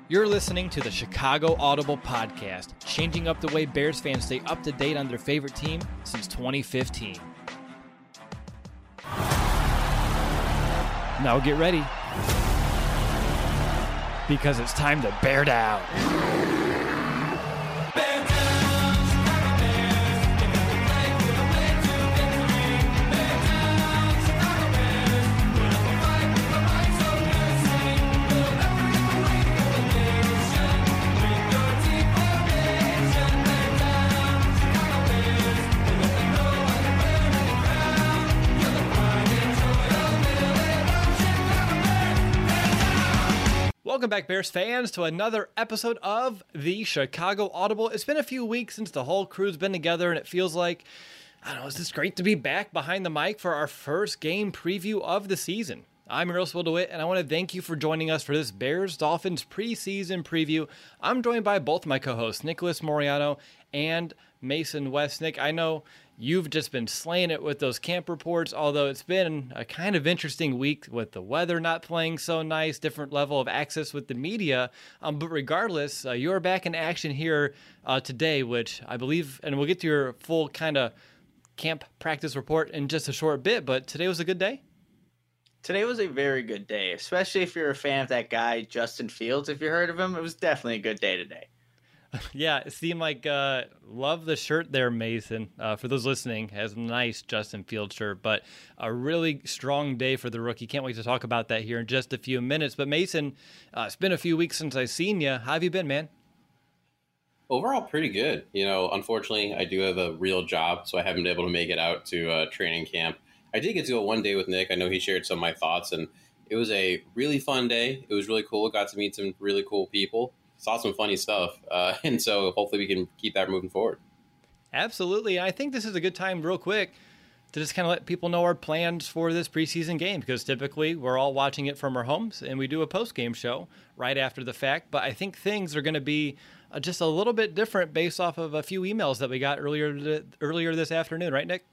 You're listening to the Chicago Audible Podcast, changing up the way Bears fans stay up to date on their favorite team since 2015. Now get ready, because it's time to bear down. Welcome back, Bears fans, to another episode of the Chicago Audible. It's been a few weeks since the whole crew's been together, and it feels like, I don't know, it's just great to be back behind the mic for our first game preview of the season. I'm Earl DeWitt, and I want to thank you for joining us for this Bears-Dolphins preseason preview. I'm joined by both my co-hosts, Nicholas Moriano and Mason Westnick. I know you've just been slaying it with those camp reports, although it's been a kind of interesting week with the weather not playing so nice, different level of access with the media. But regardless, you're back in action here today, which I believe, and we'll get to your full kind of camp practice report in just a short bit, but today was a good day? Today was a very good day, especially if you're a fan of that guy, Justin Fields. If you heard of him, it was definitely a good day today. Yeah, it seemed like, love the shirt there, Mason. For those listening, has a nice Justin Fields shirt, but a really strong day for the rookie. Can't wait to talk about that here in just a few minutes. But Mason, it's been a few weeks since I've seen you. How have you been, man? Overall, pretty good. You know, unfortunately, I do have a real job, so I haven't been able to make it out to training camp. I did get to go one day with Nick. I know he shared some of my thoughts, and it was a really fun day. It was really cool. Got to meet some really cool people. Saw some funny stuff, and so hopefully we can keep that moving forward. Absolutely. I think this is a good time, real quick, to just kind of let people know our plans for this preseason game, because typically we're all watching it from our homes, and we do a post-game show right after the fact. But I think things are going to be just a little bit different based off of a few emails that we got earlier this afternoon, right, Nick?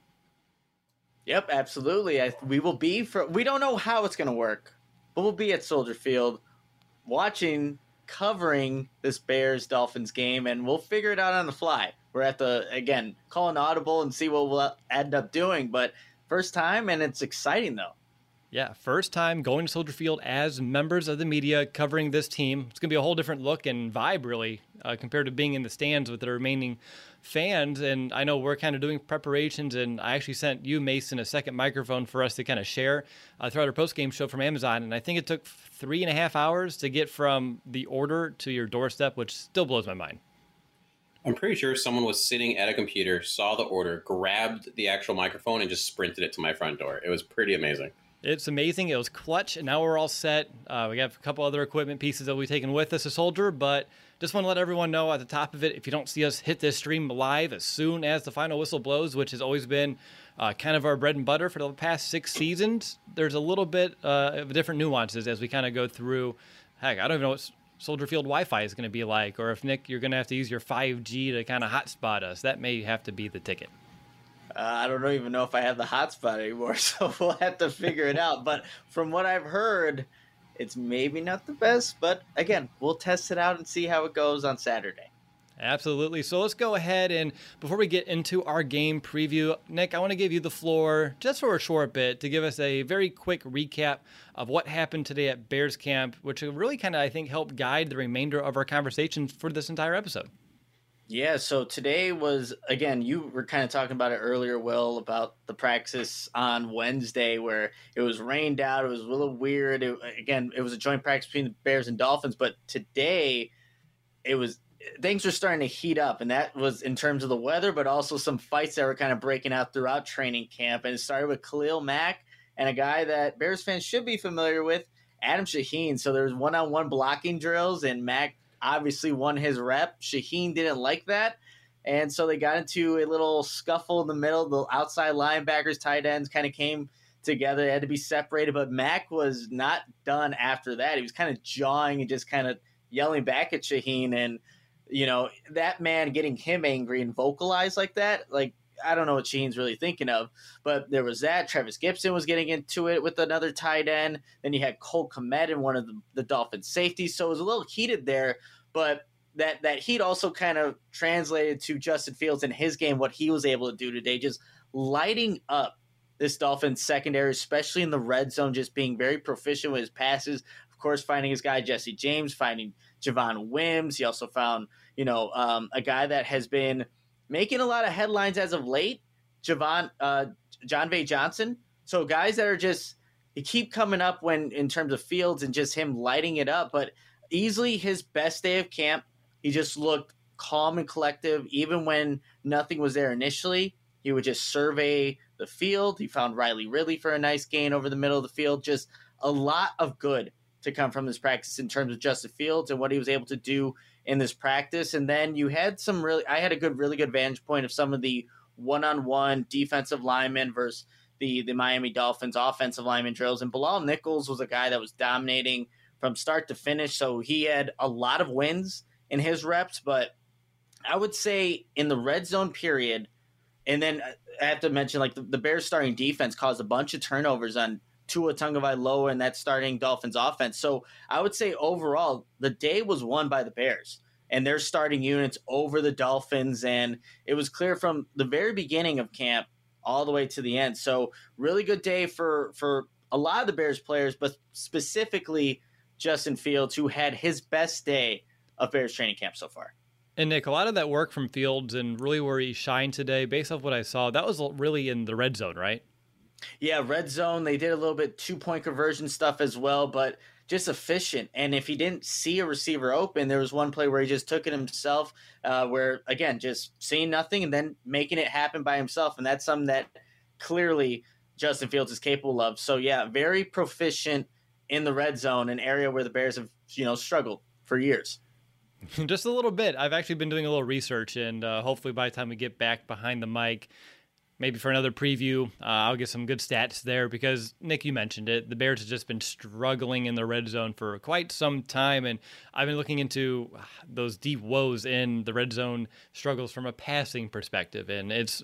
Yep, absolutely. We will be we don't know how it's going to work, but we'll be at Soldier Field watching, covering this Bears-Dolphins game, and we'll figure it out on the fly. We're at call an audible and see what we'll end up doing, but first time, and it's exciting, though. Yeah, first time going to Soldier Field as members of the media covering this team. It's going to be a whole different look and vibe, really, compared to being in the stands with the remaining fans. And I know we're kind of doing preparations, and I actually sent you, Mason, a second microphone for us to kind of share throughout our post-game show from Amazon. And I think it took 3.5 hours to get from the order to your doorstep, which still blows my mind. I'm pretty sure someone was sitting at a computer, saw the order, grabbed the actual microphone, and just sprinted it to my front door. It was pretty amazing. It's amazing. It was clutch, and now we're all set. We got a couple other equipment pieces that we've taken with us as Soldier, but just want to let everyone know at the top of it, if you don't see us hit this stream live as soon as the final whistle blows, which has always been kind of our bread and butter for the past 6 seasons, there's a little bit of different nuances as we kind of go through. Heck, I don't even know what Soldier Field Wi-Fi is going to be like, or if, Nick, you're going to have to use your 5G to kind of hotspot us. That may have to be the ticket. I don't even know if I have the hotspot anymore, so we'll have to figure it out. But from what I've heard, it's maybe not the best. But again, we'll test it out and see how it goes on Saturday. Absolutely. So let's go ahead, and before we get into our game preview, Nick, I want to give you the floor just for a short bit to give us a very quick recap of what happened today at Bears Camp, which will really kind of, I think, help guide the remainder of our conversations for this entire episode. Yeah, so today was, again, you were kind of talking about it earlier, Will, about the practice on Wednesday where it was rained out. It was a little weird. It was a joint practice between the Bears and Dolphins, but today things were starting to heat up, and that was in terms of the weather, but also some fights that were kind of breaking out throughout training camp. And it started with Khalil Mack and a guy that Bears fans should be familiar with, Adam Shaheen. So there was one-on-one blocking drills, and Mack obviously won his rep. Shaheen didn't like that, and so they got into a little scuffle in the middle. The outside linebackers, tight ends kind of came together. They had to be separated, but Mack was not done after that. He was kind of jawing and just kind of yelling back at Shaheen, and that man getting him angry and vocalized like that, like I don't know what Shaheen's really thinking of, but there was that. Travis Gibson was getting into it with another tight end. Then you had Cole Kmet in one of the Dolphins safeties. So it was a little heated there, but that heat also kind of translated to Justin Fields in his game, what he was able to do today, just lighting up this Dolphins secondary, especially in the red zone, just being very proficient with his passes. Of course, finding his guy Jesse James, finding Javon Wims. He also found, a guy that has been making a lot of headlines as of late, John Vay Johnson. So guys that are just, they keep coming up when in terms of Fields and just him lighting it up. But easily his best day of camp, he just looked calm and collective. Even when nothing was there initially, he would just survey the field. He found Riley Ridley for a nice gain over the middle of the field. Just a lot of good to come from this practice in terms of Justin Fields and what he was able to do in this practice. And then you had I had a really good vantage point of some of the one-on-one defensive linemen versus the Miami Dolphins offensive lineman drills. And Bilal Nichols was a guy that was dominating from start to finish. So he had a lot of wins in his reps, but I would say in the red zone period, and then I have to mention, like, the Bears starting defense caused a bunch of turnovers on Tua Tagovailoa and that starting Dolphins offense. So I would say overall, the day was won by the Bears and their starting units over the Dolphins. And it was clear from the very beginning of camp all the way to the end. So really good day for a lot of the Bears players, but specifically Justin Fields, who had his best day of Bears training camp so far. And Nick, a lot of that work from Fields and really where he shined today, based off what I saw, that was really in the red zone, right? Yeah, red zone. They did a little bit 2-point conversion stuff as well, but just efficient. And if he didn't see a receiver open, there was one play where he just took it himself, where, again, just seeing nothing and then making it happen by himself. And that's something that clearly Justin Fields is capable of. So, yeah, very proficient in the red zone, an area where the Bears have, struggled for years. Just a little bit. I've actually been doing a little research, and hopefully by the time we get back behind the mic, maybe for another preview, I'll get some good stats there because, Nick, you mentioned it. The Bears have just been struggling in the red zone for quite some time, and I've been looking into those deep woes in the red zone struggles from a passing perspective, and it's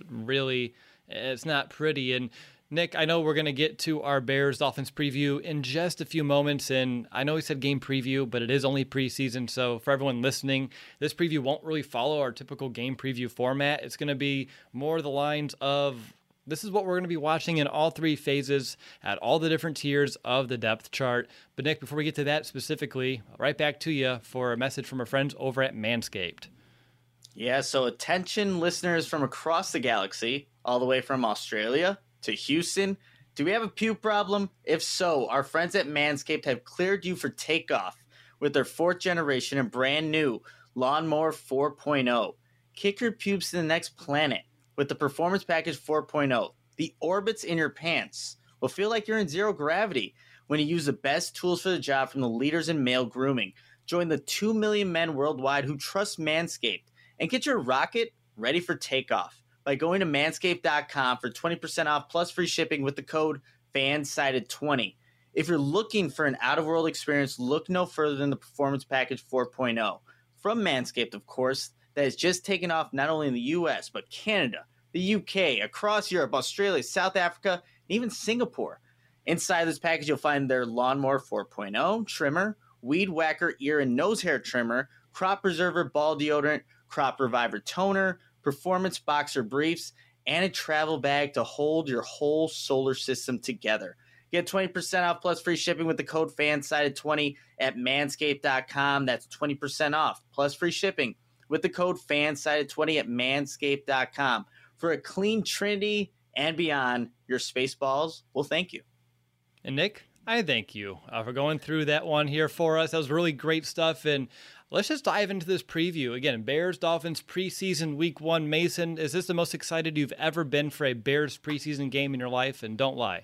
not pretty. And Nick, I know we're going to get to our Bears-Dolphins preview in just a few moments, and I know we said game preview, but it is only preseason, so for everyone listening, this preview won't really follow our typical game preview format. It's going to be more the lines of, this is what we're going to be watching in all three phases at all the different tiers of the depth chart. But Nick, before we get to that specifically, right back to you for a message from our friends over at Manscaped. Yeah, so attention listeners from across the galaxy, all the way from Australia to Houston. Do we have a puke problem? If so, our friends at Manscaped have cleared you for takeoff with their 4th generation and brand new Lawnmower 4.0. Kick your pubes to the next planet with the Performance Package 4.0. The orbits in your pants will feel like you're in zero gravity when you use the best tools for the job from the leaders in male grooming. Join the 2 million men worldwide who trust Manscaped and get your rocket ready for takeoff by going to manscaped.com for 20% off plus free shipping with the code FANSIDED20. If you're looking for an out-of-world experience, look no further than the Performance Package 4.0. From Manscaped, of course, that has just taken off not only in the US, but Canada, the UK, across Europe, Australia, South Africa, and even Singapore. Inside this package, you'll find their Lawnmower 4.0 trimmer, Weed Whacker ear and nose hair trimmer, Crop Preserver ball deodorant, Crop Reviver toner, Performance Boxer briefs, and a travel bag to hold your whole solar system together. Get 20% off plus free shipping with the code FANSIDED20 at manscaped.com. That's 20% off plus free shipping with the code FANSIDED20 at manscaped.com. For a clean trinity and beyond, your Spaceballs will thank you. And Nick, I thank you for going through that one here for us. That was really great stuff, and let's just dive into this preview. Again, Bears-Dolphins preseason week 1. Mason, is this the most excited you've ever been for a Bears preseason game in your life? And don't lie.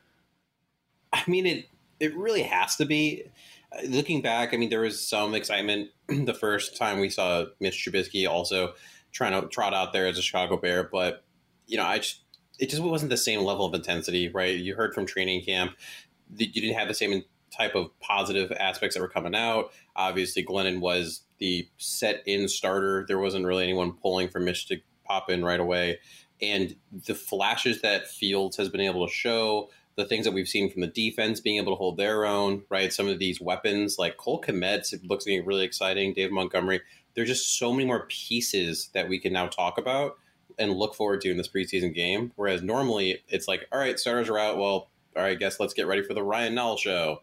I mean, it really has to be. Looking back, I mean, there was some excitement the first time we saw Mitch Trubisky also trying to trot out there as a Chicago Bear, but, it just wasn't the same level of intensity, right? You heard from training camp, you didn't have the same type of positive aspects that were coming out. Obviously, Glennon was the set-in starter. There wasn't really anyone pulling for Mitch to pop in right away. And the flashes that Fields has been able to show, the things that we've seen from the defense being able to hold their own, right? Some of these weapons like Cole Kmet looks really exciting. Dave Montgomery. There's just so many more pieces that we can now talk about and look forward to in this preseason game. Whereas normally it's like, all right, starters are out. Well, all right, I guess let's get ready for the Ryan Nall show.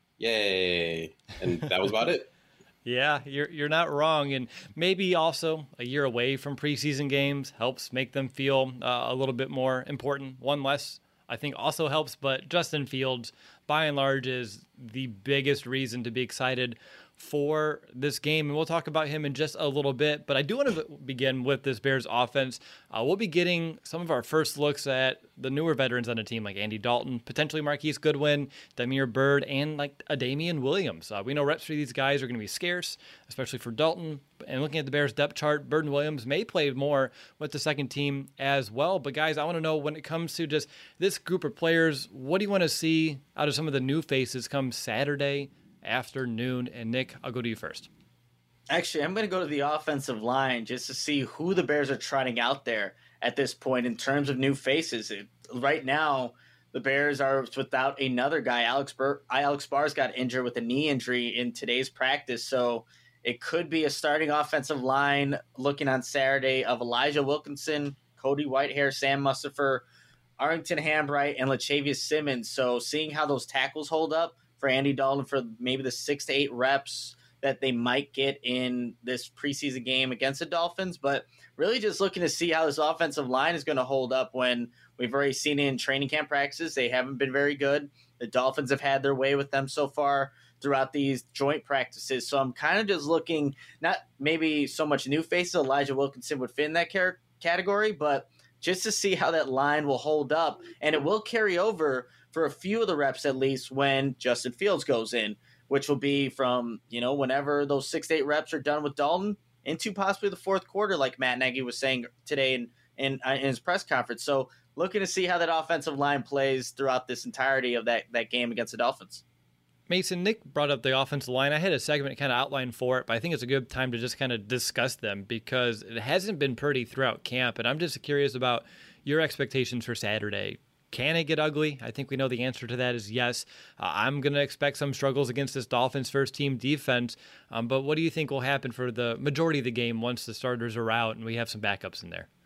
Yay. And that was about it. Yeah, you're not wrong. And maybe also a year away from preseason games helps make them feel a little bit more important. One less, I think, also helps. But Justin Fields, by and large, is the biggest reason to be excited for this game, and we'll talk about him in just a little bit. But I do want to begin with this Bears offense. We'll be getting some of our first looks at the newer veterans on the team, like Andy Dalton, potentially Marquise Goodwin, Damiere Byrd, and like a Damian Williams. We know reps for these guys are going to be scarce, especially for Dalton. And looking at the Bears depth chart, Byrd and Williams may play more with the second team as well. But guys, I want to know, when it comes to just this group of players, what do you want to see out of some of the new faces come Saturday afternoon? And Nick, I'll go to you first. Actually, I'm going to go to the offensive line just to see who the Bears are trotting out there at this point in terms of new faces. Right now, the Bears are without another guy. Alex Bars got injured with a knee injury in today's practice, so it could be a starting offensive line looking on Saturday of Elijah Wilkinson, Cody Whitehair, Sam Mustipher, Arlington Hambright, and Lachavious Simmons. So seeing how those tackles hold up for Andy Dalton for maybe the 6 to 8 reps that they might get in this preseason game against the Dolphins, but really just looking to see how this offensive line is going to hold up when we've already seen it in training camp practices. They haven't been very good. The Dolphins have had their way with them so far throughout these joint practices. So I'm kind of just looking, not maybe so much new faces, Elijah Wilkinson would fit in that category, but just to see how that line will hold up. And it will carry over for a few of the reps at least when Justin Fields goes in, which will be from, whenever those 6 to 8 reps are done with Dalton into possibly the fourth quarter, like Matt Nagy was saying today in his press conference. So looking to see how that offensive line plays throughout this entirety of that game against the Dolphins. Mason, Nick brought up the offensive line. I had a segment kind of outlined for it, but I think it's a good time to just kind of discuss them because it hasn't been pretty throughout camp. And I'm just curious about your expectations for Saturday. Can it get ugly? I think we know the answer to that is yes. I'm going to expect some struggles against this Dolphins first-team defense. But what do you think will happen for the majority of the game once the starters are out and we have some backups in there?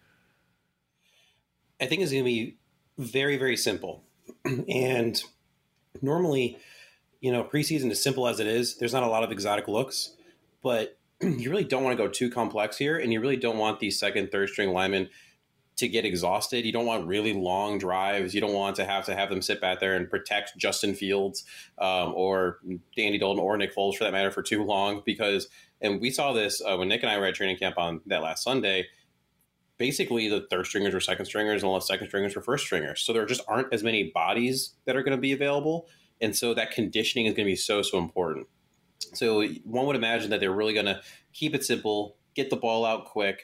I think it's going to be very, very simple. And normally, preseason, as simple as it is, there's not a lot of exotic looks. But you really don't want to go too complex here, and you really don't want these second, third-string linemen to get exhausted. You don't want really long drives. You don't want to have them sit back there and protect Justin Fields or Andy Dalton or Nick Foles for that matter for too long and we saw this when Nick and I were at training camp on that last Sunday. Basically, the third stringers were second stringers, and all the second stringers were first stringers. So there just aren't as many bodies that are going to be available. And so that conditioning is going to be so, so important. So one would imagine that they're really going to keep it simple, get the ball out quick,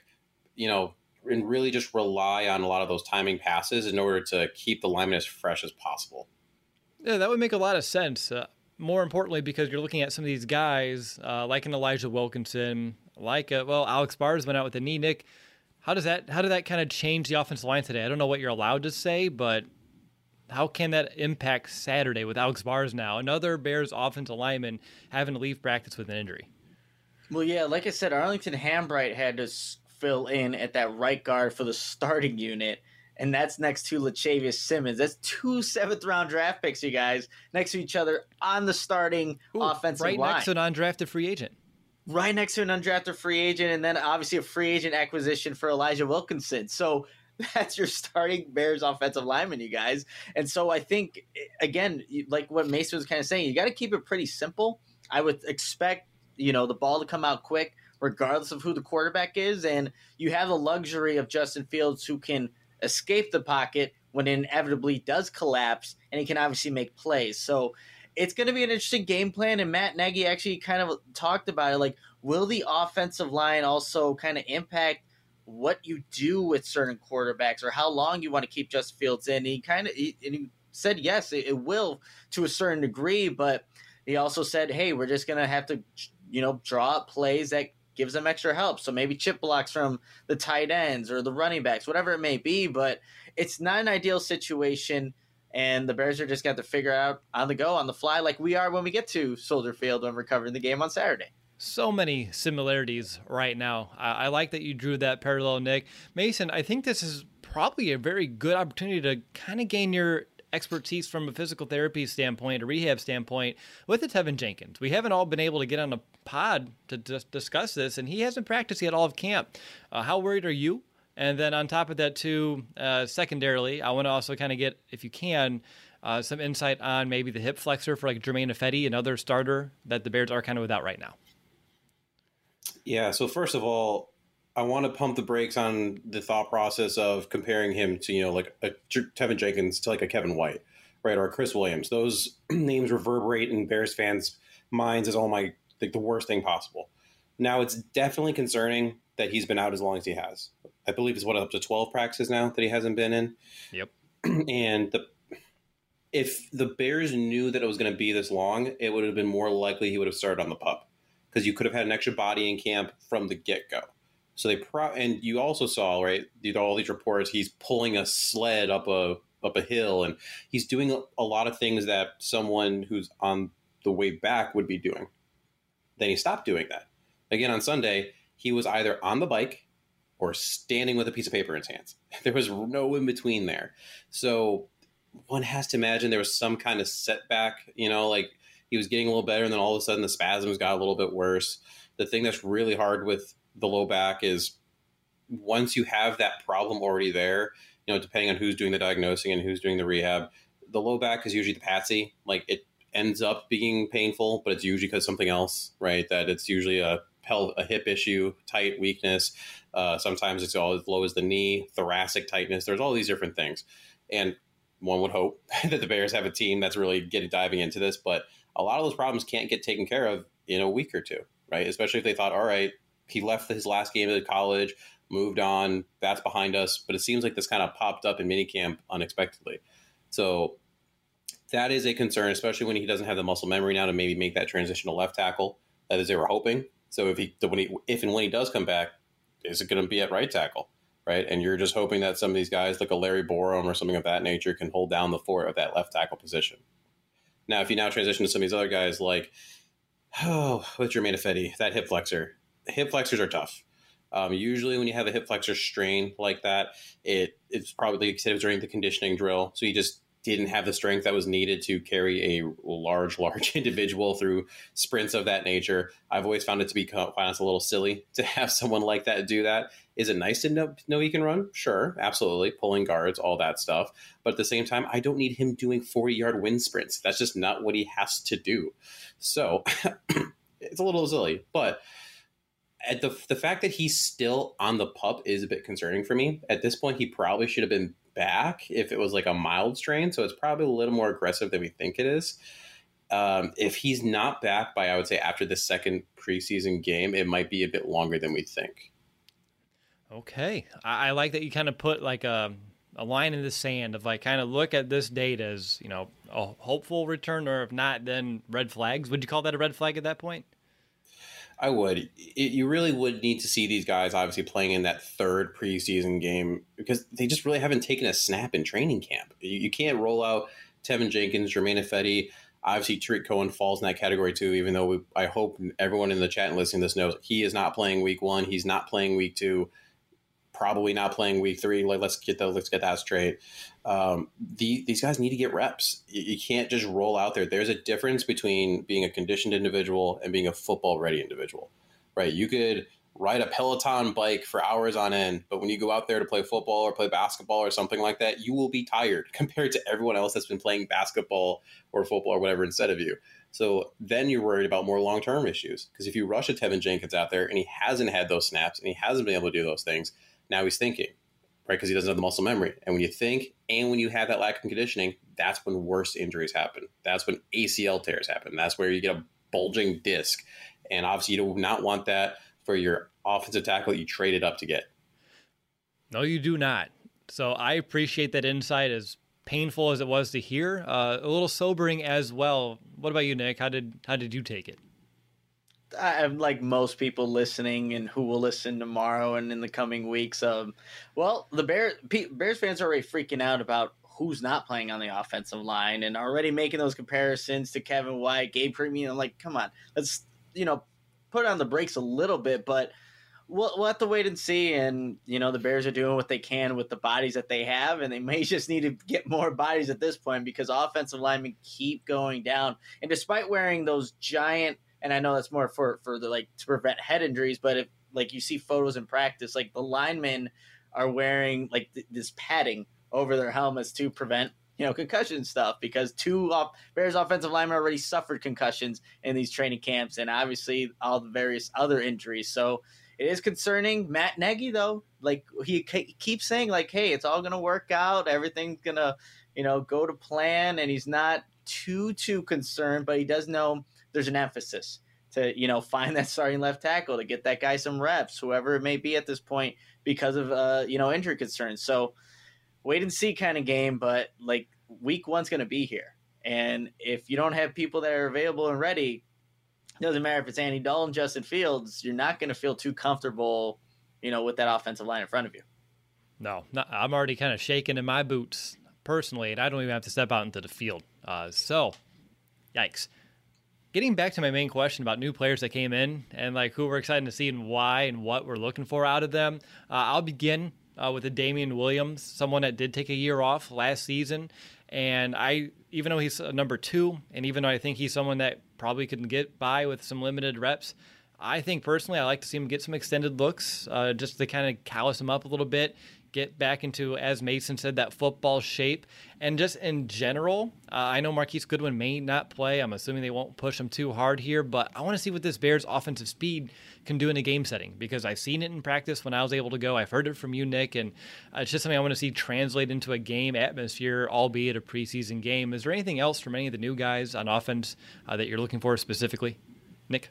and really just rely on a lot of those timing passes in order to keep the linemen as fresh as possible. Yeah, that would make a lot of sense. More importantly, because you're looking at some of these guys, like an Elijah Wilkinson, Alex Bars went out with a knee. Nick, how did that kind of change the offensive line today? I don't know what you're allowed to say, but how can that impact Saturday with Alex Bars now, another Bears offensive lineman having to leave practice with an injury? Well, yeah, like I said, Arlington Hambright had to fill in at that right guard for the starting unit, and that's next to Lachavious Simmons. That's 2 7th-round draft picks, you guys, next to each other on the starting offensive line. Right next to an undrafted free agent. Right next to an undrafted free agent, and then obviously a free agent acquisition for Elijah Wilkinson. So that's your starting Bears offensive lineman, you guys. And so I think, again, like what Mason was kind of saying, you got to keep it pretty simple. I would expect, the ball to come out quick, regardless of who the quarterback is. And you have the luxury of Justin Fields, who can escape the pocket when it inevitably does collapse, and he can obviously make plays. So it's going to be an interesting game plan. And Matt Nagy actually kind of talked about it. Like, will the offensive line also kind of impact what you do with certain quarterbacks or how long you want to keep Justin Fields in? He said, yes, it will to a certain degree, but he also said, hey, we're just going to have to, draw up plays that gives them extra help. So maybe chip blocks from the tight ends or the running backs, whatever it may be. But it's not an ideal situation. And the Bears are just got to figure out on the go, on the fly, like we are when we get to Soldier Field when we're covering the game on Saturday. So many similarities right now. I like that you drew that parallel, Nick. Mason, I think this is probably a very good opportunity to kind of gain your expertise from a physical therapy standpoint, a rehab standpoint with the Tevin Jenkins. We haven't all been able to get on a pod to discuss this, and he hasn't practiced yet all of camp. How worried are you? And then on top of that, too, secondarily, I want to also kind of get, if you can, some insight on maybe the hip flexor for like Germain Ifedi, another starter that the Bears are kind of without right now. Yeah, so first of all, I want to pump the brakes on the thought process of comparing him to, like a Tevin Jenkins to like a Kevin White, right, or a Chris Williams. Those names reverberate in Bears fans' minds as the worst thing possible. Now, it's definitely concerning that he's been out as long as he has. I believe it's up to 12 practices now that he hasn't been in. Yep. And if the Bears knew that it was going to be this long, it would have been more likely he would have started on the PUP, because you could have had an extra body in camp from the get-go. So and you also saw, right, all these reports, he's pulling a sled up a hill, and he's doing a lot of things that someone who's on the way back would be doing. Then he stopped doing that. Again, on Sunday, he was either on the bike or standing with a piece of paper in his hands. There was no in between there. So one has to imagine there was some kind of setback, like he was getting a little better, and then all of a sudden the spasms got a little bit worse. The thing that's really hard with the low back is once you have that problem already there, depending on who's doing the diagnosing and who's doing the rehab, the low back is usually the patsy. Like, it ends up being painful, but it's usually because something else, right? That it's usually a hip issue, tight weakness. Sometimes it's all as low as the knee, thoracic tightness. There's all these different things. And one would hope that the Bears have a team that's really diving into this. But a lot of those problems can't get taken care of in a week or two, right? Especially if they thought, all right, he left his last game at college, moved on, that's behind us. But it seems like this kind of popped up in minicamp unexpectedly. So that is a concern, especially when he doesn't have the muscle memory now to maybe make that transition to left tackle, as they were hoping. So if and when he does come back, is it going to be at right tackle, right? And you're just hoping that some of these guys, like a Larry Borom or something of that nature, can hold down the fort of that left tackle position. Now, if you now transition to some of these other guys, like, with Germain Ifedi, that hip flexor. Hip flexors are tough. Usually when you have a hip flexor strain like that, it's probably, like you said, it was during the conditioning drill. So you just didn't have the strength that was needed to carry a large individual through sprints of that nature. I've always found it to be quite honestly a little silly to have someone like that do that. Is it nice to know he can run? Sure, absolutely. Pulling guards, all that stuff. But at the same time, I don't need him doing 40-yard wind sprints. That's just not what he has to do. So it's a little silly. But at the fact that he's still on the PUP is a bit concerning for me. At this point, he probably should have been back if it was like a mild strain. So it's probably a little more aggressive than we think it is. If he's not back by, I would say, after the second preseason game, it might be a bit longer than we think. Okay. I like that you kind of put like a line in the sand of like kind of look at this date as, a hopeful return, or if not, then red flags. Would you call that a red flag at that point? I would. You really would need to see these guys obviously playing in that third preseason game, because they just really haven't taken a snap in training camp. You can't roll out Tevin Jenkins, Germain Ifedi. Obviously, Tariq Cohen falls in that category too, even though I hope everyone in the chat and listening to this knows he is not playing week 1. He's not playing week 2. Probably not playing week 3. Let's get that straight. These guys need to get reps. You can't just roll out there. There's a difference between being a conditioned individual and being a football ready individual, right? You could ride a Peloton bike for hours on end, but when you go out there to play football or play basketball or something like that, you will be tired compared to everyone else that's been playing basketball or football or whatever instead of you. So then you're worried about more long-term issues, because if you rush a Tevin Jenkins out there and he hasn't had those snaps and he hasn't been able to do those things, now he's thinking, right? Because he doesn't have the muscle memory. And when you think and when you have that lack of conditioning, that's when worse injuries happen. That's when ACL tears happen. That's where you get a bulging disc. And obviously you do not want that for your offensive tackle that you traded up to get. No, you do not. So I appreciate that insight, as painful as it was to hear, a little sobering as well. What about you, Nick? How did you take it? I'm like most people listening and who will listen tomorrow and in the coming weeks. Well, the Bears fans are already freaking out about who's not playing on the offensive line and already making those comparisons to Kevin White, Gabe Premium. I'm like, come on, let's put on the brakes a little bit, but we'll have to wait and see. And the Bears are doing what they can with the bodies that they have, and they may just need to get more bodies at this point because offensive linemen keep going down. And despite wearing those giant, and I know that's more for the to prevent head injuries, but if you see photos in practice, the linemen are wearing this padding over their helmets to prevent concussion stuff, because Bears offensive linemen already suffered concussions in these training camps, and obviously all the various other injuries. So it is concerning. Matt Nagy, though, he keeps saying hey, it's all gonna work out, everything's gonna go to plan, and he's not too concerned, but he does know there's an emphasis to find that starting left tackle, to get that guy some reps, whoever it may be at this point, because of injury concerns. So wait and see kind of game, but week one's going to be here, and if you don't have people that are available and ready, it doesn't matter if it's Andy Dalton, Justin Fields, you're not going to feel too comfortable with that offensive line in front of you. No, I'm already kind of shaking in my boots personally, and I don't even have to step out into the field. So yikes. Getting back to my main question about new players that came in and who we're excited to see and why and what we're looking for out of them, I'll begin with the Damian Williams, someone that did take a year off last season. And even though he's a number 2, and even though I think he's someone that probably could get by with some limited reps, I think personally I like to see him get some extended looks just to kind of callus him up a little bit, get back into, as Mason said, that football shape. And just in general, I know Marquise Goodwin may not play. I'm assuming they won't push him too hard here, but I want to see what this Bears offensive speed can do in a game setting, because I've seen it in practice when I was able to go. I've heard it from you, Nick, and it's just something I want to see translate into a game atmosphere, albeit a preseason game. Is there anything else from any of the new guys on offense that you're looking for specifically, Nick?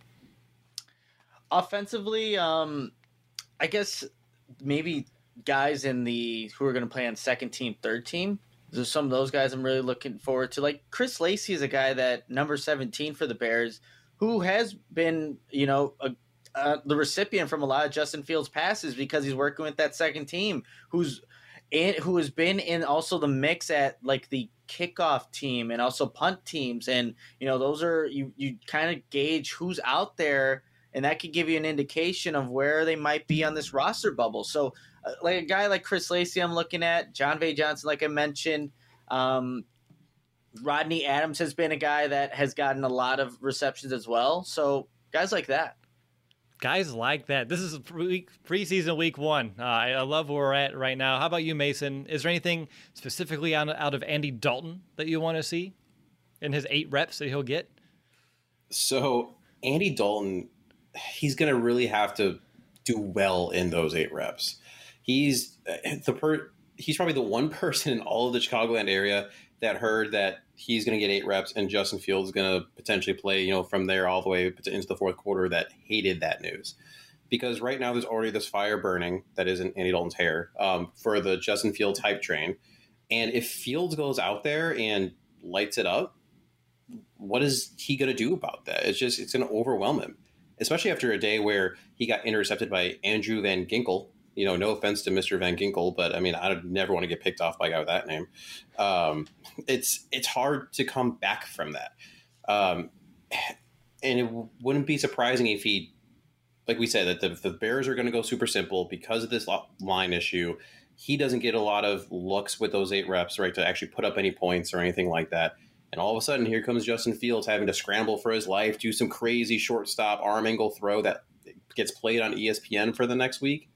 Offensively, I guess maybe guys who are going to play on second team, third team. There's some of those guys I'm really looking forward to. Chris Lacey is a guy that number 17 for the Bears, who has been, the recipient from a lot of Justin Fields passes because he's working with that second team, who has been in also the mix at the kickoff team and also punt teams. And, those are, you kind of gauge who's out there, and that could give you an indication of where they might be on this roster bubble. So, a guy like Chris Lacey I'm looking at, John Vay Johnson, like I mentioned. Rodney Adams has been a guy that has gotten a lot of receptions as well. So, guys like that. Guys like that. This is preseason week 1. I love where we're at right now. How about you, Mason? Is there anything specifically out of Andy Dalton that you want to see in his 8 reps that he'll get? So, Andy Dalton, he's going to really have to do well in those 8 reps. He's probably the one person in all of the Chicagoland area that heard that he's going to get 8 reps and Justin Fields is going to potentially play, from there all the way into the fourth quarter, that hated that news. Because right now there's already this fire burning that is in Andy Dalton's hair for the Justin Fields hype train. And if Fields goes out there and lights it up, what is he going to do about that? It's going to overwhelm him, especially after a day where he got intercepted by Andrew Van Ginkel. No offense to Mr. Van Ginkel, but I mean, I'd never want to get picked off by a guy with that name. It's hard to come back from that. And it wouldn't be surprising if he, like we said, that the Bears are going to go super simple because of this line issue. He doesn't get a lot of looks with those 8 reps, right, to actually put up any points or anything like that. And all of a sudden, here comes Justin Fields having to scramble for his life, do some crazy shortstop arm angle throw that gets played on ESPN for the next week.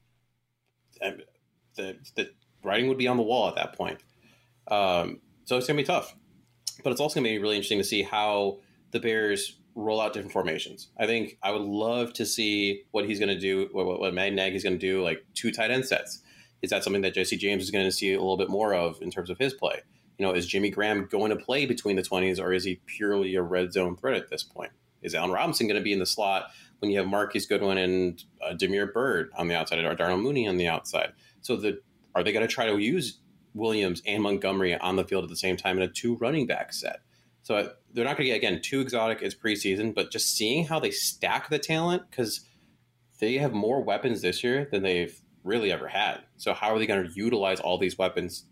The writing would be on the wall at that point. So it's going to be tough. But it's also going to be really interesting to see how the Bears roll out different formations. I think I would love to see what he's going to do, what Matt Nagy's going to do, 2 tight end sets. Is that something that Jesse James is going to see a little bit more of in terms of his play? Is Jimmy Graham going to play between the 20s, or is he purely a red zone threat at this point? Is Allen Robinson going to be in the slot when you have Marquise Goodwin and Damiere Byrd on the outside, or Darnell Mooney on the outside? So are they going to try to use Williams and Montgomery on the field at the same time in a 2 running back set? So they're not going to get, again, too exotic as preseason, but just seeing how they stack the talent, because they have more weapons this year than they've really ever had. So how are they going to utilize all these weapons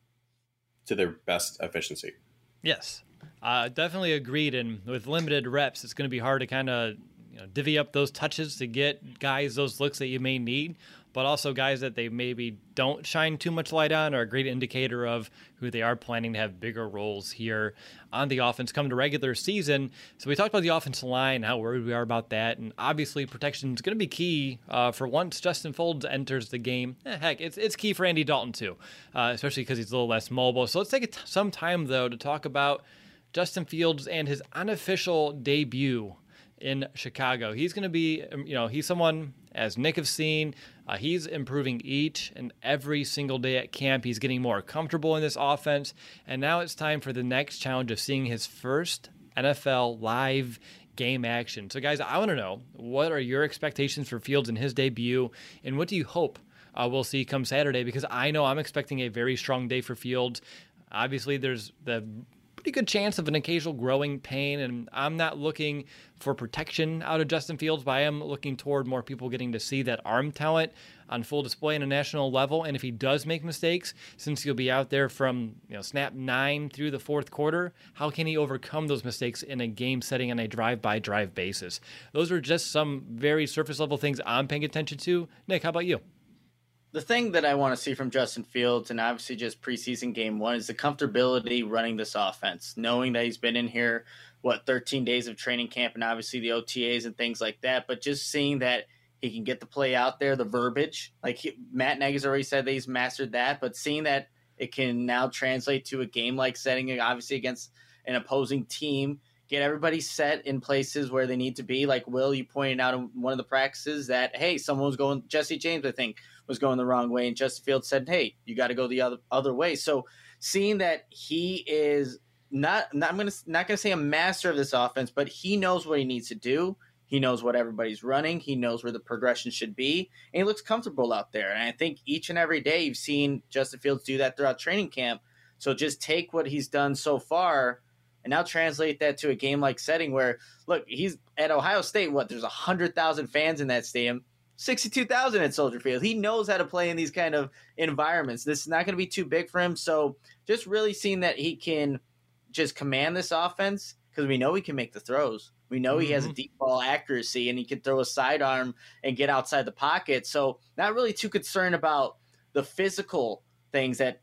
to their best efficiency? Yes, definitely agreed. And with limited reps, it's going to be hard to kind of divvy up those touches to get guys those looks that you may need, but also guys that they maybe don't shine too much light on are a great indicator of who they are planning to have bigger roles here on the offense come to regular season. So we talked about the offensive line, how worried we are about that, and obviously protection is going to be key for once Justin Fields enters the game. Heck, it's key for Andy Dalton too, especially because he's a little less mobile. So let's take some time though to talk about Justin Fields and his unofficial debut in Chicago. He's going to be, he's someone, as Nick have seen, he's improving each and every single day at camp. He's getting more comfortable in this offense. And now it's time for the next challenge of seeing his first NFL live game action. So guys, I want to know, what are your expectations for Fields in his debut? And what do you hope we'll see come Saturday? Because I know I'm expecting a very strong day for Fields. Obviously, there's the pretty good chance of an occasional growing pain, and I'm not looking for protection out of Justin Fields, but I am looking toward more people getting to see that arm talent on full display on a national level. And if he does make mistakes, since he'll be out there from snap 9 through the fourth quarter, how can he overcome those mistakes in a game setting on a drive-by-drive basis? Those are just some very surface level things I'm paying attention to. Nick, how about you? The thing that I want to see from Justin Fields, and obviously just preseason game one, is the comfortability running this offense, knowing that he's been in here, 13 days of training camp, and obviously the OTAs and things like that, but just seeing that he can get the play out there, the verbiage. Matt Nagy's already said that he's mastered that, but seeing that it can now translate to a game-like setting, obviously against an opposing team, get everybody set in places where they need to be. Like Will, you pointed out in one of the practices that, hey, someone was going, Jesse James, I think, was going the wrong way, and Justin Fields said, hey, you got to go the other way. So seeing that he is not gonna say a master of this offense, but he knows what he needs to do. He knows what everybody's running. He knows where the progression should be, and he looks comfortable out there. And I think each and every day you've seen Justin Fields do that throughout training camp. So just take what he's done so far and now translate that to a game-like setting where, look, he's at Ohio State. There's 100,000 fans in that stadium, 62,000 at Soldier Field. He knows how to play in these kind of environments. This is not going to be too big for him. So just really seeing that he can just command this offense, because we know he can make the throws. We know he has a deep ball accuracy, and he can throw a sidearm and get outside the pocket. So not really too concerned about the physical things that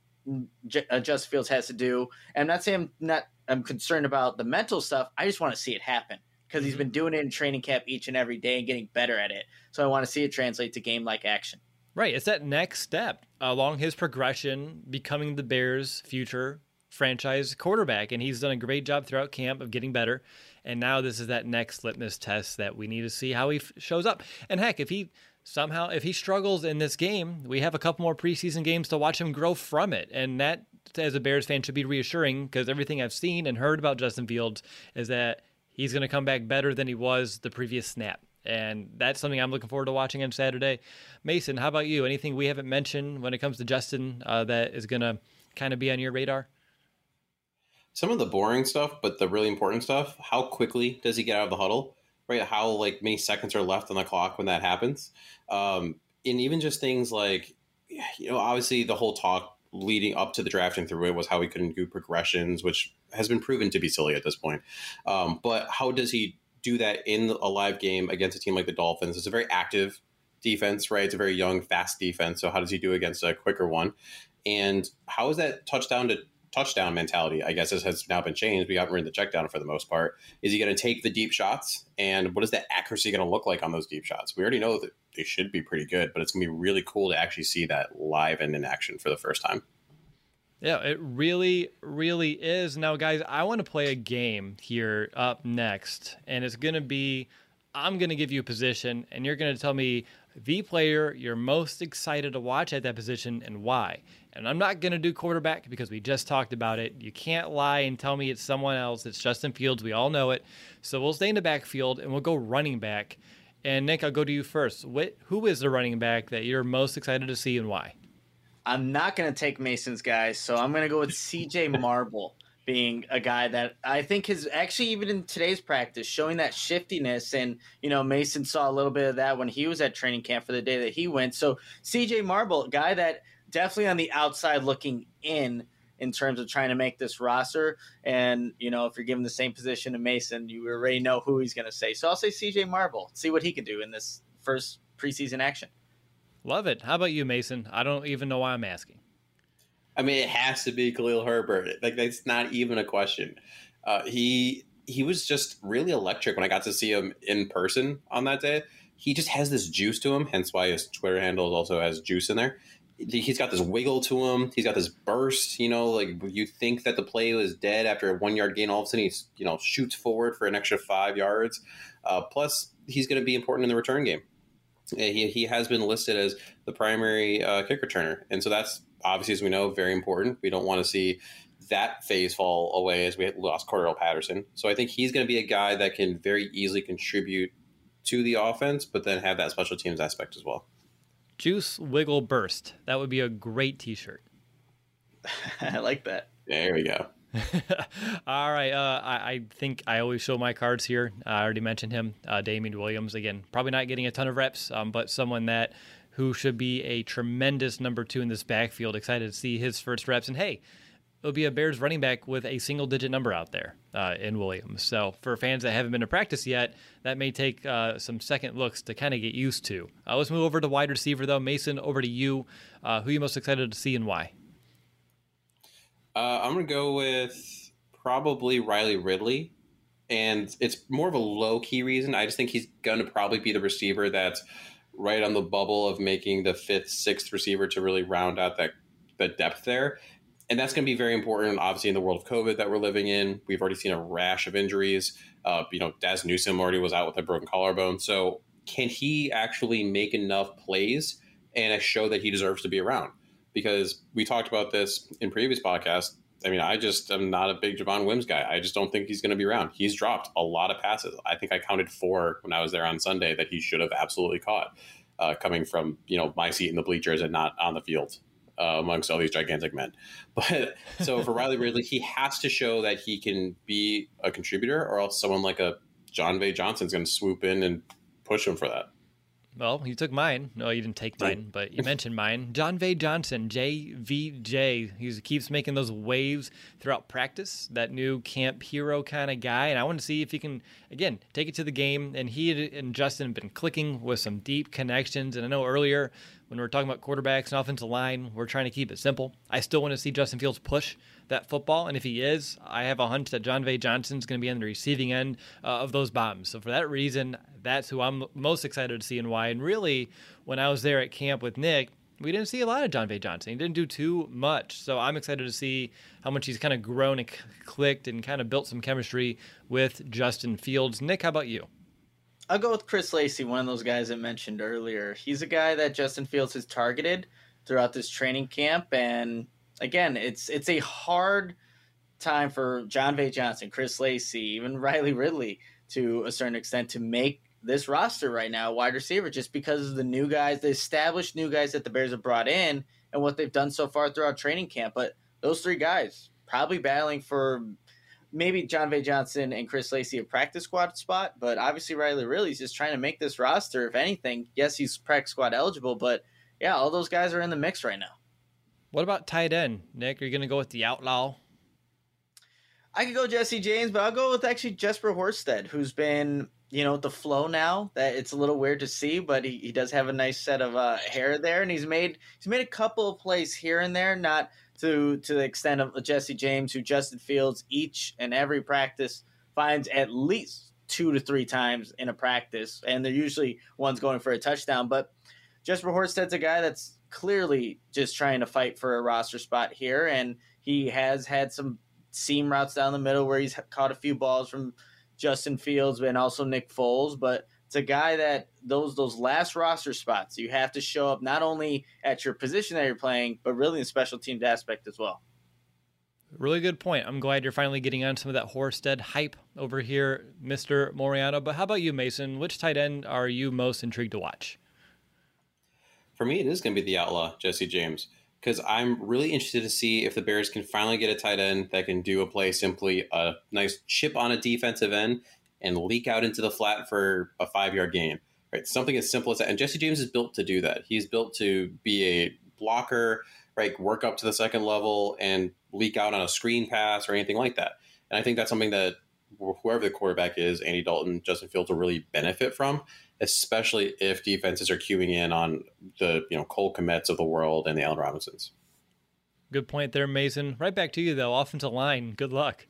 Justin Fields has to do. And I'm not saying I'm concerned about the mental stuff. I just want to see it happen, because he's been doing it in training camp each and every day and getting better at it. So I want to see it translate to game-like action. Right. It's that next step along his progression, becoming the Bears' future franchise quarterback. And he's done a great job throughout camp of getting better. And now this is that next litmus test that we need to see how he shows up. And heck, if he struggles in this game, we have a couple more preseason games to watch him grow from it. And that, as a Bears fan, should be reassuring, because everything I've seen and heard about Justin Fields is that he's going to come back better than he was the previous snap. And that's something I'm looking forward to watching on Saturday. Mason, how about you? Anything we haven't mentioned when it comes to Justin that is going to kind of be on your radar? Some of the boring stuff, but the really important stuff. How quickly does he get out of the huddle? Right? How many seconds are left on the clock when that happens? And even just things like, obviously the whole talk leading up to the draft and through it was how he couldn't do progressions, which has been proven to be silly at this point. But how does he do that in a live game against a team like the Dolphins? It's a very active defense, right? It's a very young, fast defense. So how does he do against a quicker one? And how is that touchdown to touchdown mentality, I guess, has now been changed? We haven't run the check down for the most part. Is he going to take the deep shots? And what is that accuracy going to look like on those deep shots? We already know that they should be pretty good, but it's going to be really cool to actually see that live and in action for the first time. Yeah, it really, really is. Now, guys, I want to play a game here up next, and it's going to be, I'm going to give you a position, and you're going to tell me the player you're most excited to watch at that position and why. And I'm not going to do quarterback because we just talked about it. You can't lie and tell me it's someone else. It's Justin Fields. We all know it. So we'll stay in the backfield, and we'll go running back. And Nick, I'll go to you first. Who is the running back that you're most excited to see and why? I'm not going to take Mason's guys, so I'm going to go with CJ Marble, being a guy that I think is actually, even in today's practice, showing that shiftiness. And, Mason saw a little bit of that when he was at training camp for the day that he went. So CJ Marble, guy that definitely on the outside looking in terms of trying to make this roster. And, if you're given the same position to Mason, you already know who he's going to say. So I'll say CJ Marble, see what he can do in this first preseason action. Love it. How about you, Mason? I don't even know why I'm asking. I mean, it has to be Khalil Herbert. Like, that's not even a question. He was just really electric when I got to see him in person on that day. He just has this juice to him, hence why his Twitter handle also has juice in there. He's got this wiggle to him. He's got this burst, like you think that the play was dead after a 1 yard gain. All of a sudden he's, shoots forward for an extra 5 yards. Plus he's going to be important in the return game. He has been listed as the primary kick returner. And so that's obviously, as we know, very important. We don't want to see that phase fall away as we lost Cordell Patterson. So I think he's going to be a guy that can very easily contribute to the offense, but then have that special teams aspect as well. Juice, wiggle, burst. That would be a great t-shirt. I like that. There we go. All right. I think I always show my cards here. I already mentioned him, Damian Williams. Again, probably not getting a ton of reps, but someone who should be a tremendous number 2 in this backfield. Excited to see his first reps. And hey, it'll be a Bears running back with a single-digit number out there in Williams. So for fans that haven't been to practice yet, that may take some second looks to kind of get used to. Let's move over to wide receiver, though. Mason, over to you. Who are you most excited to see and why? I'm going to go with probably Riley Ridley. And it's more of a low-key reason. I just think he's going to probably be the receiver that's right on the bubble of making the 5th, 6th receiver to really round out that depth there. And that's going to be very important, obviously, in the world of COVID that we're living in. We've already seen a rash of injuries. Daz Newsome already was out with a broken collarbone. So can he actually make enough plays and show that he deserves to be around? Because we talked about this in previous podcasts. I mean, I just am not a big Javon Wims guy. I just don't think he's going to be around. He's dropped a lot of passes. I think I counted 4 when I was there on Sunday that he should have absolutely caught, coming from, my seat in the bleachers and not on the field. Amongst all these gigantic men. But so for Riley Ridley, he has to show that he can be a contributor, or else someone like a John V. Johnson's going to swoop in and push him for that. Well, you took mine. No, you didn't take mine, but you mentioned mine. John V. Johnson, JVJ. He keeps making those waves throughout practice, that new camp hero kind of guy. And I want to see if he can, again, take it to the game. And he and Justin have been clicking with some deep connections. And I know earlier when we were talking about quarterbacks and offensive line, we're trying to keep it simple. I still want to see Justin Fields push that football. And if he is, I have a hunch that John V. Johnson's going to be on the receiving end of those bombs. So for that reason, that's who I'm most excited to see and why. And really, when I was there at camp with Nick, we didn't see a lot of John V. Johnson. He didn't do too much. So I'm excited to see how much he's kind of grown and clicked and kind of built some chemistry with Justin Fields. Nick, how about you? I'll go with Chris Lacey, one of those guys I mentioned earlier. He's a guy that Justin Fields has targeted throughout this training camp. And again, it's a hard time for John V. Johnson, Chris Lacey, even Riley Ridley to a certain extent to make this roster right now, wide receiver, just because of the new guys, the established new guys that the Bears have brought in and what they've done so far throughout training camp. But those 3 guys probably battling for maybe John V. Johnson and Chris Lacey a practice squad spot, but obviously Riley Ridley's just trying to make this roster. If anything, yes, he's practice squad eligible, but yeah, all those guys are in the mix right now. What about tight end, Nick? Are you going to go with the outlaw? I could go Jesse James, but I'll go with actually Jesper Horsted, who's been, the flow now. That it's a little weird to see, but he does have a nice set of hair there, and he's made a couple of plays here and there, not to the extent of Jesse James, who Justin Fields each and every practice finds at least 2 to 3 times in a practice, and they're usually ones going for a touchdown. But Jesper Horsted's a guy that's clearly just trying to fight for a roster spot here, and he has had some seam routes down the middle where he's caught a few balls from Justin Fields and also Nick Foles. But it's a guy that those last roster spots, you have to show up not only at your position that you're playing, but really in the special teams aspect as well. Really good point. I'm glad you're finally getting on some of that Horsted hype over here, Mr. Moriano. But how about you, Mason? Which tight end are you most intrigued to watch? For me, it is going to be the outlaw, Jesse James. because I'm really interested to see if the Bears can finally get a tight end that can do a play simply a nice chip on a defensive end and leak out into the flat for a 5-yard gain. Right, something as simple as that. And Jesse James is built to do that. He's built to be a blocker, right, work up to the second level and leak out on a screen pass or anything like that. And I think that's something that whoever the quarterback is, Andy Dalton, Justin Fields will really benefit from, especially if defenses are queuing in on the Cole Kmets of the world and the Allen Robinsons. Good point there, Mason. Right back to you, though. Offensive line, good luck.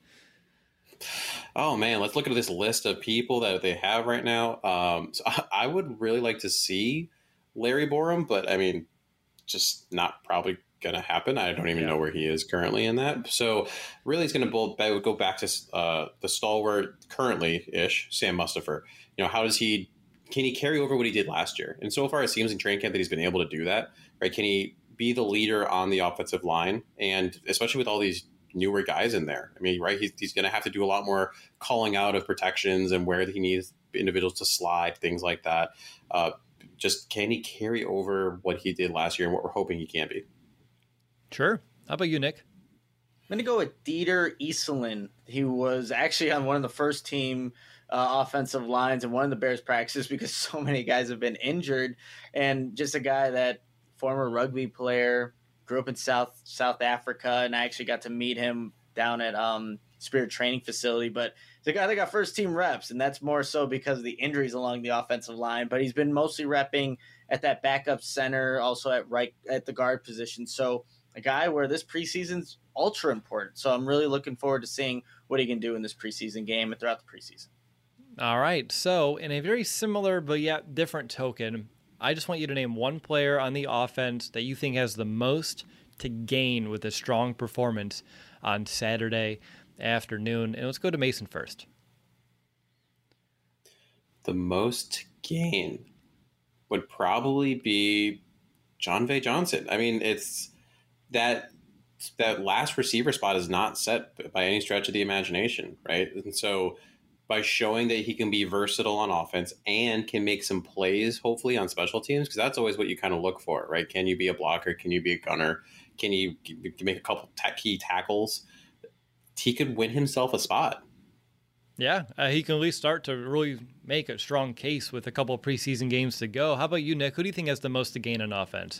Oh, man, let's look at this list of people that they have right now. So I would really like to see Larry Borum, but, I mean, just not probably going to happen. I don't even know where he is currently in that. So really it's going to go back to the stalwart currently-ish, Sam Mustipher. How does can he carry over what he did last year? And so far it seems in training camp that he's been able to do that, right? Can he be the leader on the offensive line? And especially with all these newer guys in there. I mean, right, he's going to have to do a lot more calling out of protections and where he needs individuals to slide, things like that. Just can he carry over what he did last year and what we're hoping he can be? Sure. How about you, Nick? I'm going to go with Dieter Easelin. He was actually on one of the first team offensive lines in one of the Bears practices because so many guys have been injured. And just a guy that former rugby player, grew up in South Africa, and I actually got to meet him down at Spirit Training Facility. But the guy that got first team reps, and that's more so because of the injuries along the offensive line. But he's been mostly repping at that backup center, also at the guard position. So a guy where this preseason's ultra important. So I'm really looking forward to seeing what he can do in this preseason game and throughout the preseason. All right. So in a very similar but yet different token, I just want you to name one player on the offense that you think has the most to gain with a strong performance on Saturday afternoon. And let's go to Mason first. The most gain would probably be John Vay Johnson. I mean, it's that last receiver spot is not set by any stretch of the imagination, right? And so by showing that he can be versatile on offense and can make some plays, hopefully, on special teams, because that's always what you kind of look for, right? Can you be a blocker? Can you be a gunner? Can you make a couple key tackles? He could win himself a spot. Yeah, he can at least start to really make a strong case with a couple of preseason games to go. How about you, Nick? Who do you think has the most to gain on offense?